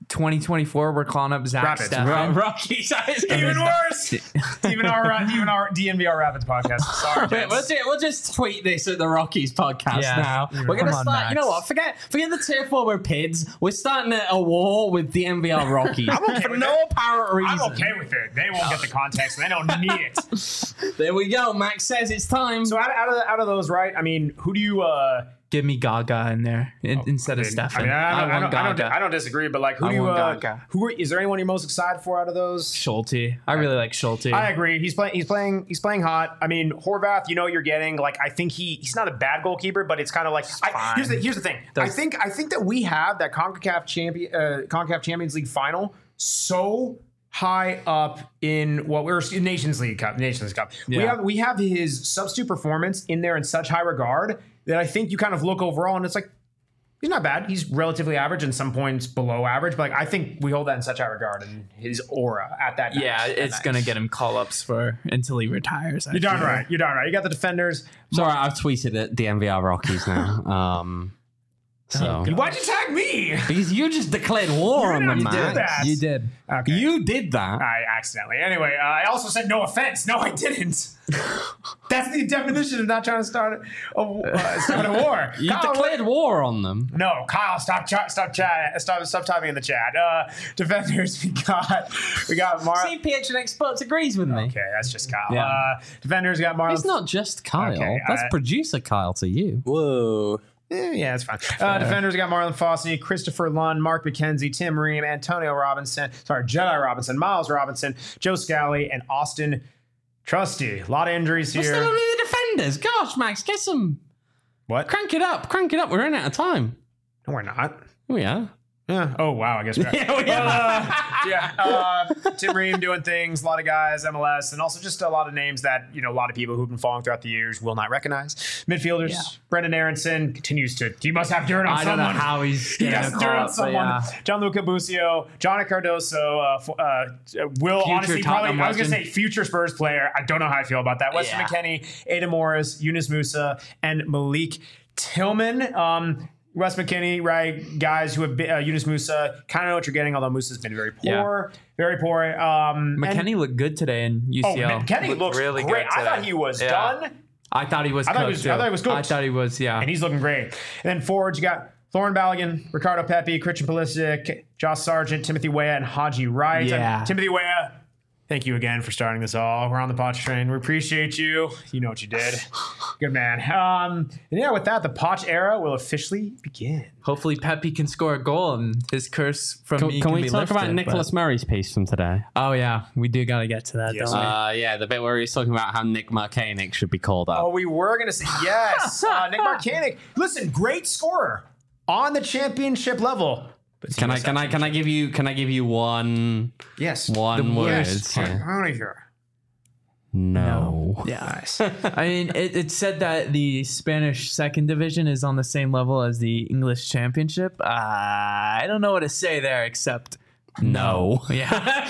Speaker 3: 2024, we're calling up Zach
Speaker 1: Rapids.
Speaker 3: Steffen.
Speaker 2: Rockies.
Speaker 1: Even worse. even our DNVR Rapids podcast. Sorry, gents.
Speaker 2: We'll just tweet this at the Rockies podcast
Speaker 3: Yeah.
Speaker 2: now. We're
Speaker 3: Come
Speaker 2: gonna
Speaker 3: on,
Speaker 2: start. You
Speaker 3: Max.
Speaker 2: know what? Forget the tier 4 with PIDs. We're starting a war with the DNVR Rockies
Speaker 1: okay
Speaker 2: for
Speaker 1: with
Speaker 2: no apparent reason.
Speaker 1: I'm okay with it. They won't get the context. They don't need it.
Speaker 2: There we go. Max says it's time.
Speaker 1: So out of those, right? I mean, who do you?
Speaker 3: Give me Gaga in there instead of Steffen.
Speaker 1: I mean, I don't disagree, but like, who
Speaker 3: I
Speaker 1: do you?
Speaker 3: want Gaga.
Speaker 1: Is there anyone you're most excited for out of those?
Speaker 3: Schulte. I really like Schulte.
Speaker 1: I agree. He's playing hot. I mean, Horvath, you know what you're getting. Like, I think he's not a bad goalkeeper, but it's kind of like here's the thing. I think that we have that CONCACAF Champions League final so high up in what we're Nations League Cup.
Speaker 3: Yeah.
Speaker 1: We have his substitute performance in there in such high regard that I think you kind of look overall and it's like, he's not bad. He's relatively average and some points below average, but like, I think we hold that in such high regard and his aura at that.
Speaker 3: Yeah, it's going to get him call-ups until he retires.
Speaker 1: You're darn right. You got the defenders.
Speaker 2: It's all right. I've tweeted at the DNVR Rockies now. So
Speaker 1: Why'd you tag me?
Speaker 2: because you just declared war on them,
Speaker 1: You did
Speaker 2: man.
Speaker 1: that.
Speaker 3: You did.
Speaker 1: Okay.
Speaker 2: You did that.
Speaker 1: I accidentally. Anyway, I also said no offense. No, I didn't. That's the definition of not trying to start a war.
Speaker 2: You
Speaker 1: Kyle,
Speaker 2: declared war on them.
Speaker 1: No, Kyle, stop typing in the chat. Defenders, we got Mar.
Speaker 2: CPH and Experts agrees with me.
Speaker 1: Okay, that's just Kyle.
Speaker 3: Yeah.
Speaker 1: Defenders got Marlon.
Speaker 2: It's not just Kyle.
Speaker 1: Okay,
Speaker 2: That's producer Kyle to you.
Speaker 4: Whoa.
Speaker 1: Yeah, it's fine. Defenders got Marlon Fossey, Christopher Lund, Mark McKenzie, Tim Ream, Jedi Robinson, Miles Robinson, Joe Scally, and Austin Trusty. A lot of injuries
Speaker 2: We're
Speaker 1: here.
Speaker 2: still only the defenders. Gosh, Max, get some.
Speaker 1: What?
Speaker 2: Crank it up. We're running out of time.
Speaker 1: No, we're not.
Speaker 2: Oh, yeah.
Speaker 1: Yeah. Oh, wow. I guess we're Tim Ream doing things, a lot of guys, MLS, and also just a lot of names that, a lot of people who've been following throughout the years will not recognize. Midfielders, Brendan Aronson continues to, he must have dirt on
Speaker 3: I
Speaker 1: someone.
Speaker 3: don't know how he's
Speaker 1: He has dirt on someone.
Speaker 3: Yeah.
Speaker 1: Gianluca Busio, Johnny Cardoso, Will, honestly, probably,
Speaker 3: Tottenham
Speaker 1: I was going to say
Speaker 3: legend.
Speaker 1: future Spurs player. I don't know how I feel about that. Weston
Speaker 3: Yeah.
Speaker 1: McKennie, Ada Morris, Yunus Musa, and Malik Tillman. Wes McKinney, right? Guys who have been, Yunus Musa, kind of know what you're getting, although Musa's been very poor. Very poor.
Speaker 3: McKennie looked good today in UCL.
Speaker 1: McKennie looks
Speaker 3: really
Speaker 1: great.
Speaker 3: good
Speaker 1: I thought
Speaker 3: today.
Speaker 1: he was
Speaker 3: Yeah.
Speaker 1: done,
Speaker 3: I thought he was
Speaker 1: I thought he
Speaker 3: cooked,
Speaker 1: was-
Speaker 3: too.
Speaker 1: I thought he was cooked.
Speaker 3: I thought he was, yeah.
Speaker 1: and he's looking great. And then forwards, you got Lauren Balogun, Ricardo Pepi, Christian Pulisic, Josh Sargent, Timothy Weah, and Haji Wright.
Speaker 3: Yeah.
Speaker 1: And Timothy Weah, thank you again for starting this all. We're on the Poch train. We appreciate you. You know what you did. Good man. And yeah, with that, the Poch era will officially begin.
Speaker 3: Hopefully Pepe can score a goal and his curse from me
Speaker 2: Can we
Speaker 3: be
Speaker 2: talk
Speaker 3: lifted,
Speaker 2: about
Speaker 3: but-
Speaker 2: Nicholas Murray's piece from today?
Speaker 3: Oh, yeah. We do got to get to that,
Speaker 1: Yes.
Speaker 3: don't we?
Speaker 2: Yeah, the bit where he's talking about how Nick Marcanic should be called up.
Speaker 1: Oh, we were going to say yes. Nick Marcanic. Listen, great scorer on the championship level. But
Speaker 2: Can I give you one
Speaker 1: Yes.
Speaker 2: word?
Speaker 1: Yes.
Speaker 2: Yeah.
Speaker 1: How many here?
Speaker 2: No.
Speaker 3: Yeah.
Speaker 1: Nice.
Speaker 3: I mean, it said that the Spanish second division is on the same level as the English championship. I don't know what to say there except
Speaker 2: No.
Speaker 3: yeah.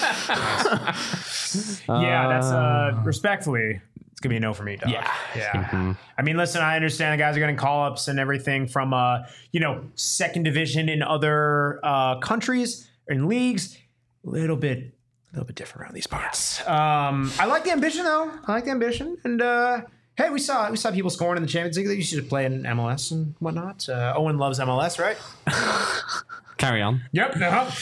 Speaker 1: Yeah, that's respectfully, it's gonna be a no for me, dog. Yeah. I mean, listen, I understand the guys are getting call-ups and everything from second division in other countries or in leagues. A little bit different around these parts. I like the ambition though. And hey, we saw people scoring in the Champions League. They used to play in MLS and whatnot. Owen loves MLS, right?
Speaker 2: Carry on.
Speaker 1: Yep.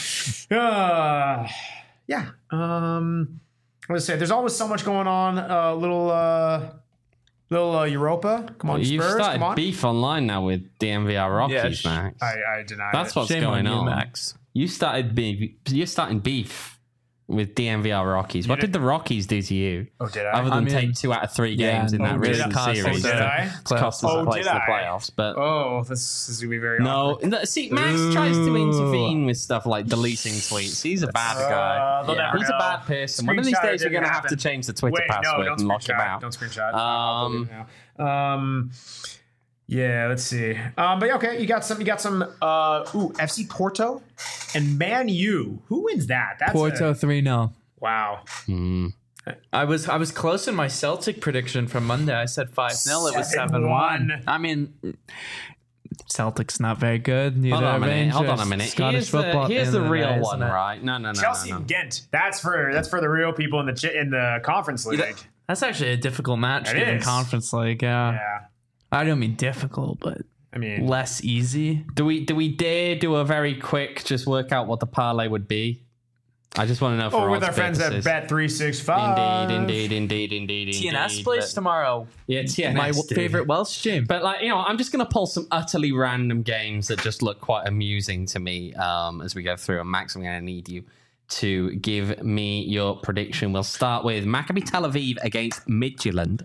Speaker 1: Yeah. I'm gonna say there's always so much going on. Little Europa. Come on,
Speaker 2: You've
Speaker 1: Spurs.
Speaker 2: started
Speaker 1: Come on.
Speaker 2: beef online now with DNVR Rockies,
Speaker 3: Yeah,
Speaker 2: Max.
Speaker 1: I deny
Speaker 2: That's
Speaker 1: it.
Speaker 2: what's
Speaker 3: Shame
Speaker 2: going
Speaker 3: on you,
Speaker 2: on.
Speaker 3: Max.
Speaker 2: You're starting beef with DNVR Rockies. What did the Rockies do to you?
Speaker 1: Oh, did I?
Speaker 2: Other than
Speaker 3: mean,
Speaker 2: take 2 out of 3 games in
Speaker 3: yeah,
Speaker 2: that
Speaker 3: oh,
Speaker 2: recent
Speaker 3: did I?
Speaker 2: series
Speaker 1: Oh, did I?
Speaker 2: to cost us
Speaker 1: Oh,
Speaker 2: a place
Speaker 1: did
Speaker 2: in the
Speaker 1: I?
Speaker 2: playoffs. But
Speaker 1: Oh, this is gonna be very
Speaker 2: no,
Speaker 1: awkward.
Speaker 2: see, Max tries to intervene with stuff like deleting tweets. He's a bad guy.
Speaker 1: they'll never
Speaker 2: He's a
Speaker 1: know.
Speaker 2: bad person. One of these
Speaker 1: Screenshot
Speaker 2: days, we're
Speaker 1: didn't
Speaker 2: going to have to
Speaker 1: happen.
Speaker 2: change the Twitter
Speaker 1: Wait, no,
Speaker 2: password
Speaker 1: don't
Speaker 2: and lock him
Speaker 1: screenshot.
Speaker 2: out.
Speaker 1: Don't screenshot. I'll believe it now. Yeah, let's see. But yeah, okay, you got some FC Porto and Man U. Who wins that? That's
Speaker 3: Porto 3-0.
Speaker 1: Wow.
Speaker 3: I was close in my Celtic prediction from Monday. I said 5-0. It was 7-1.
Speaker 1: 7-1.
Speaker 3: I mean, Celtics not very good. Neither
Speaker 2: Hold on a minute.
Speaker 3: Rangers,
Speaker 2: Hold on a minute.
Speaker 3: Scottish
Speaker 2: Here's the
Speaker 3: football.
Speaker 2: real
Speaker 3: isn't
Speaker 2: one,
Speaker 3: it?
Speaker 2: right? No.
Speaker 1: Chelsea and Ghent. That's for the real people in the conference league.
Speaker 3: That's actually a difficult match
Speaker 1: It
Speaker 3: in
Speaker 1: is.
Speaker 3: conference league. Yeah.
Speaker 1: Yeah.
Speaker 3: I don't mean difficult, but
Speaker 1: I mean,
Speaker 3: less easy.
Speaker 2: Do we dare do a very quick just work out what the parlay would be? I just want to know. For
Speaker 1: with our friends at Bet365.
Speaker 2: Indeed.
Speaker 3: TNS plays tomorrow.
Speaker 2: Yeah, TNS.
Speaker 3: My
Speaker 2: dude.
Speaker 3: favorite Welsh team.
Speaker 2: But I'm just going to pull some utterly random games that just look quite amusing to me as we go through. And Max, I'm going to need you to give me your prediction. We'll start with Maccabi Tel Aviv against Midtjylland.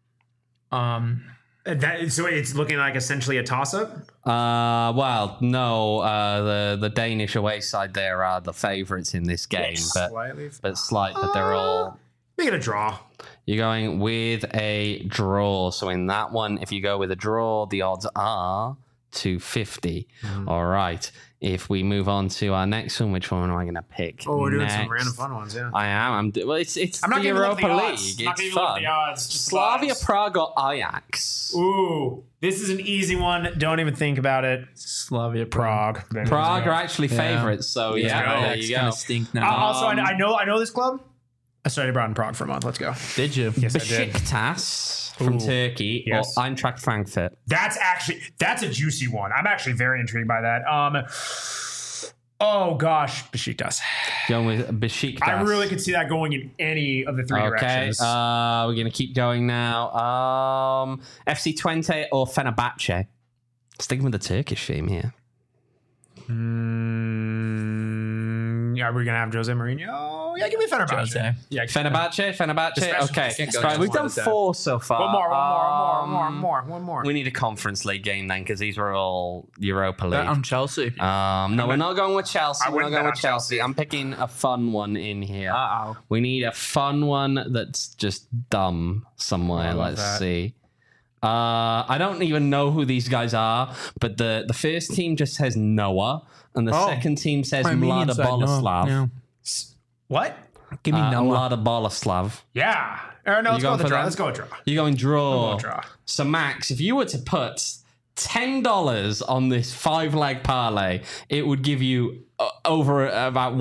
Speaker 1: So it's looking like essentially a toss-up?
Speaker 2: Well, no. The Danish away side there are the favourites in this game, but they're all.
Speaker 1: Make it a draw.
Speaker 2: You're going with a draw. So in that one, if you go with a draw, the odds are 250. All right. If we move on to our next one, which one am I going to pick?
Speaker 1: Oh, we're doing
Speaker 2: next?
Speaker 1: some random fun ones, yeah.
Speaker 2: I am. It's
Speaker 1: I'm not
Speaker 2: the
Speaker 1: giving up
Speaker 2: Europa
Speaker 1: the
Speaker 2: League.
Speaker 1: odds. Not
Speaker 2: It's
Speaker 1: giving up
Speaker 2: fun.
Speaker 1: the odds. Just
Speaker 2: Slavia
Speaker 1: vibes.
Speaker 2: Prague or Ajax?
Speaker 1: Ooh, this is an easy one. Don't even think about it.
Speaker 3: Slavia
Speaker 1: Prague.
Speaker 2: Prague are actually favourites, so yeah, there you go.
Speaker 3: Stink now.
Speaker 1: Also, I know this club. I studied abroad in Prague for a month. Let's go.
Speaker 3: Did you?
Speaker 1: Yes, I did.
Speaker 2: Besiktas from Turkey
Speaker 1: Yes.
Speaker 2: or Eintracht Frankfurt?
Speaker 1: That's a juicy one. I'm actually very intrigued by that. Oh gosh, Besiktas.
Speaker 2: Going with Besiktas.
Speaker 1: I really could see that going in any of the three
Speaker 2: Okay,
Speaker 1: directions.
Speaker 2: we're going to keep going now. FC Twente or Fenerbahce? Sticking with the Turkish theme here.
Speaker 1: Yeah, we're gonna have Jose Mourinho. Yeah, give me Fenerbahce.
Speaker 3: Jose.
Speaker 1: Yeah,
Speaker 2: Fenerbahce.
Speaker 1: Especially-
Speaker 2: Okay,
Speaker 1: can't go
Speaker 2: right,
Speaker 1: just
Speaker 2: we've
Speaker 1: one
Speaker 2: done
Speaker 1: at a time.
Speaker 2: 4 so far.
Speaker 1: One more.
Speaker 2: We need a Conference League game then, because these were all Europa League.
Speaker 3: Bet on Chelsea.
Speaker 2: No, we're not going with Chelsea.
Speaker 1: I
Speaker 2: We're not
Speaker 1: wouldn't
Speaker 2: going
Speaker 1: bet
Speaker 2: with
Speaker 1: on
Speaker 2: Chelsea. I'm picking a fun one in here.
Speaker 3: Uh-oh.
Speaker 2: We need a fun one that's just dumb somewhere. Let's
Speaker 1: that.
Speaker 2: see. I don't even know who these guys are, but the first team just says Noah, and the second team says Mlada Boleslav.
Speaker 3: Yeah.
Speaker 1: What?
Speaker 3: Give me Noah.
Speaker 2: Mlada Boleslav.
Speaker 1: Yeah. Or no, let's go
Speaker 2: going
Speaker 1: with the
Speaker 2: for
Speaker 1: draw.
Speaker 2: that?
Speaker 1: Let's go with draw.
Speaker 2: You're going draw.
Speaker 1: We'll draw.
Speaker 2: So Max, if you were to put $10 on this 5-leg parlay, it would give you over about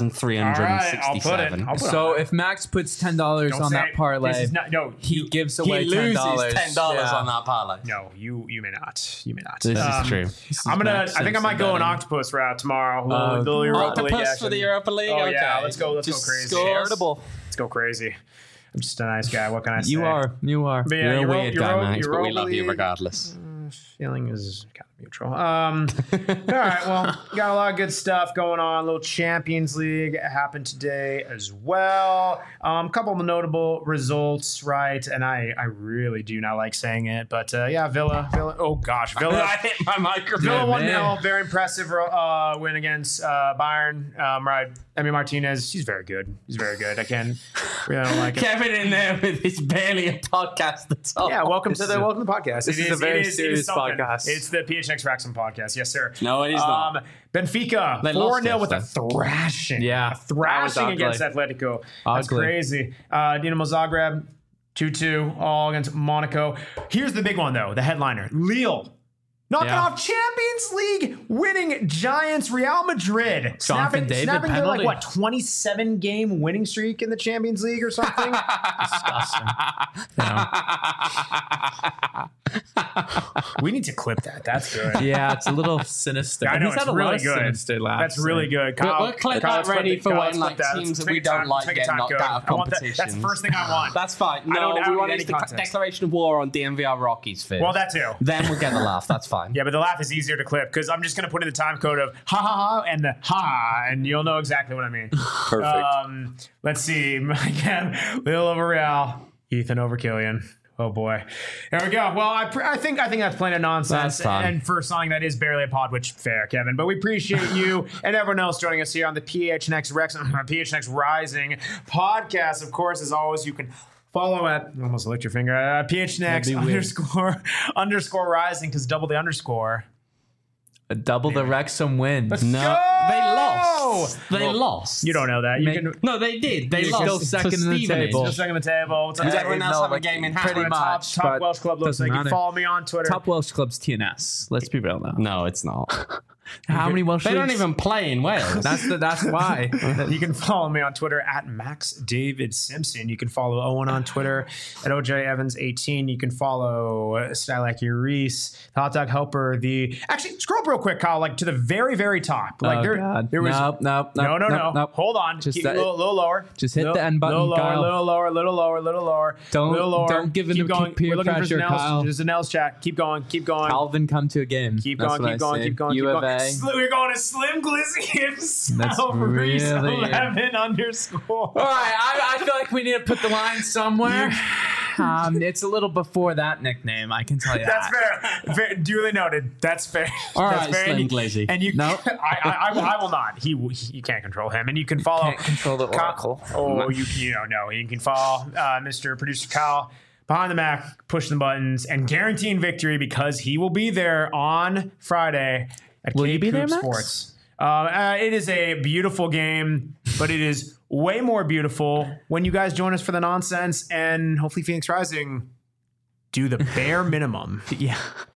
Speaker 2: 1,367.
Speaker 1: I'll put
Speaker 3: So if Max puts $10
Speaker 1: Don't
Speaker 3: on
Speaker 1: say
Speaker 3: that
Speaker 1: it.
Speaker 3: parlay,
Speaker 1: This is not, no,
Speaker 3: he gives away
Speaker 2: He loses
Speaker 3: $10.
Speaker 2: $10 on that parlay.
Speaker 1: no, you may not. You may not.
Speaker 2: This is true.
Speaker 1: I think I might go an octopus route tomorrow. Little Europa League
Speaker 2: Octopus for
Speaker 1: action.
Speaker 2: the Europa League?
Speaker 1: Oh
Speaker 2: Okay.
Speaker 1: yeah, let's go
Speaker 2: Just
Speaker 1: crazy.
Speaker 2: scores.
Speaker 1: Let's go crazy. I'm just a nice guy. What can I say?
Speaker 3: You are.
Speaker 1: But yeah,
Speaker 2: You're a
Speaker 1: Euro-
Speaker 2: weird guy,
Speaker 1: Euro-
Speaker 2: Max, but we
Speaker 1: Europa
Speaker 2: love you
Speaker 1: League,
Speaker 2: regardless.
Speaker 1: Feeling is kind of neutral. All right, well, got a lot of good stuff going on. A little Champions League happened today as well. A couple of notable results, right? And I really do not like saying it, but yeah, Villa. Oh gosh, Villa.
Speaker 2: I hit my microphone.
Speaker 1: Villa 1-0,
Speaker 3: man.
Speaker 1: very impressive win against Bayern. Right, Emi Martinez, he's very good. I don't like it.
Speaker 2: Kevin in there with his barely a podcast that's all.
Speaker 1: Yeah, welcome to the podcast.
Speaker 3: this is a very serious
Speaker 1: something.
Speaker 3: podcast.
Speaker 1: It's the PHX Wrexham podcast. Yes, sir.
Speaker 2: No, it is not.
Speaker 1: Benfica
Speaker 2: They lost
Speaker 1: 4-0 with a
Speaker 2: yesterday.
Speaker 1: thrashing.
Speaker 3: Yeah,
Speaker 1: A thrashing
Speaker 3: that was
Speaker 1: against Atletico. That's
Speaker 3: Ugly.
Speaker 1: crazy. Dinamo Zagreb 2-2 all against Monaco. Here's the big one though, the headliner. Lille. Knocking
Speaker 3: Yeah.
Speaker 1: off Champions League winning giants Real Madrid.
Speaker 3: Jonathan David
Speaker 1: snapping their
Speaker 3: penalty.
Speaker 1: 27 game winning streak in the Champions League or something.
Speaker 3: Disgusting.
Speaker 1: We need to clip that. That's good.
Speaker 3: Yeah, it's a little sinister.
Speaker 1: I know,
Speaker 3: He's
Speaker 1: it's
Speaker 3: had a
Speaker 1: really
Speaker 3: lot of
Speaker 1: good.
Speaker 3: sinister laughs.
Speaker 1: That's really good. Kyle,
Speaker 2: We'll clip
Speaker 1: Kyle,
Speaker 2: that
Speaker 1: let's clip
Speaker 2: ready
Speaker 1: it.
Speaker 2: for
Speaker 1: Kyle,
Speaker 2: when
Speaker 1: let's
Speaker 2: like
Speaker 1: clip that.
Speaker 2: teams
Speaker 1: Let's
Speaker 2: that
Speaker 1: take
Speaker 2: we
Speaker 1: a time-
Speaker 2: don't like
Speaker 1: take a
Speaker 2: get
Speaker 1: time
Speaker 2: knocked
Speaker 1: code.
Speaker 2: out of
Speaker 1: I want that.
Speaker 2: competition.
Speaker 1: That's the first thing I want.
Speaker 2: That's fine.
Speaker 1: I don't
Speaker 2: No, we want
Speaker 1: need
Speaker 2: to
Speaker 1: any
Speaker 2: the
Speaker 1: context.
Speaker 2: declaration of war on DMVR Rockies first.
Speaker 1: Well, that too.
Speaker 2: Then we'll get the laugh. That's fine.
Speaker 1: Yeah, but the laugh is easier to clip because I'm just going to put in the time code of ha ha ha and the ha, and you'll know exactly what I mean.
Speaker 5: Perfect.
Speaker 1: Let's see. Again, Lille over Real, Ethan over Killian. Oh boy. There we go. Well, I think that's plenty of nonsense.
Speaker 2: That's fine.
Speaker 1: And for something that is barely a pod, which fair, Kevin. But we appreciate you and everyone else joining us here on the PHNX Rising podcast. Of course, as always, you can follow at almost licked your finger PHNX _ rising because double the underscore.
Speaker 3: Double the Wrexham win.
Speaker 1: Let's
Speaker 2: No,
Speaker 1: go!
Speaker 2: they lost.
Speaker 1: No,
Speaker 2: They lost.
Speaker 1: you don't know that. You can.
Speaker 2: No, they did. They
Speaker 3: You're
Speaker 2: lost.
Speaker 3: still second
Speaker 2: to
Speaker 3: in the
Speaker 2: Stevenage.
Speaker 3: table.
Speaker 1: Still second on the table.
Speaker 2: Does everyone else have a game in hand?
Speaker 3: pretty
Speaker 1: That's what a
Speaker 3: much,
Speaker 1: top
Speaker 3: but
Speaker 1: Welsh club looks
Speaker 3: doesn't
Speaker 1: like. You
Speaker 3: matter.
Speaker 1: can follow me on Twitter.
Speaker 3: Top Welsh club's TNS. Let's be real now.
Speaker 2: No, it's not.
Speaker 3: How many Welsh
Speaker 2: They don't
Speaker 3: leagues?
Speaker 2: even play in Wales.
Speaker 3: That's why.
Speaker 1: You can follow me on Twitter at Max David Simpson. You can follow Owen on Twitter at OJ Evans 18. You can follow Stylacky Reese, the Hot Dog Helper. Actually, scroll up real quick, Kyle, like to the very, very top. Like
Speaker 3: God.
Speaker 1: there was
Speaker 3: Nope.
Speaker 1: No. Hold on,
Speaker 3: Just
Speaker 1: keep a little lower.
Speaker 3: just hit
Speaker 1: Little-
Speaker 3: the end button,
Speaker 1: Little lower,
Speaker 3: Kyle.
Speaker 1: little lower, little lower, little lower.
Speaker 3: Don't-
Speaker 1: little lower.
Speaker 3: don't give in
Speaker 1: Keep
Speaker 3: to
Speaker 1: going.
Speaker 3: peer
Speaker 1: We're looking for
Speaker 3: pressure,
Speaker 1: Zanelle's-
Speaker 3: Kyle.
Speaker 1: There's Zanelle's chat. Keep going. Keep going.
Speaker 3: Calvin, come to a game.
Speaker 1: Keep
Speaker 3: That's
Speaker 1: going,
Speaker 3: what
Speaker 1: keep
Speaker 3: I
Speaker 1: going,
Speaker 3: say.
Speaker 1: keep going, keep
Speaker 3: U of
Speaker 1: going.
Speaker 3: A.
Speaker 1: We're going to Slim Glizzy himself.
Speaker 3: That's
Speaker 1: Reese
Speaker 3: really-
Speaker 1: 11 underscore.
Speaker 3: All right, I feel like we need to put the line somewhere. It's a little before that nickname, I can tell you.
Speaker 1: That's
Speaker 3: that.
Speaker 1: fair. Duly noted. That's fair.
Speaker 2: All
Speaker 1: That's
Speaker 2: right,
Speaker 1: fair.
Speaker 2: Slim
Speaker 1: And
Speaker 2: Glizzy.
Speaker 1: And you,
Speaker 3: No.
Speaker 1: I will not. You can't control him. And you can follow.
Speaker 3: Can't control the oracle.
Speaker 1: Oh, you don't know. You can follow Mr. Producer Kyle behind the Mac, pushing the buttons, and guaranteeing victory because he will be there on Friday at
Speaker 3: Will
Speaker 1: Cape
Speaker 3: you be there,
Speaker 1: Coop
Speaker 3: Max?
Speaker 1: Sports. It is a beautiful game, but it is way more beautiful when you guys join us for the nonsense and hopefully Phoenix Rising do the bare minimum
Speaker 3: Yeah.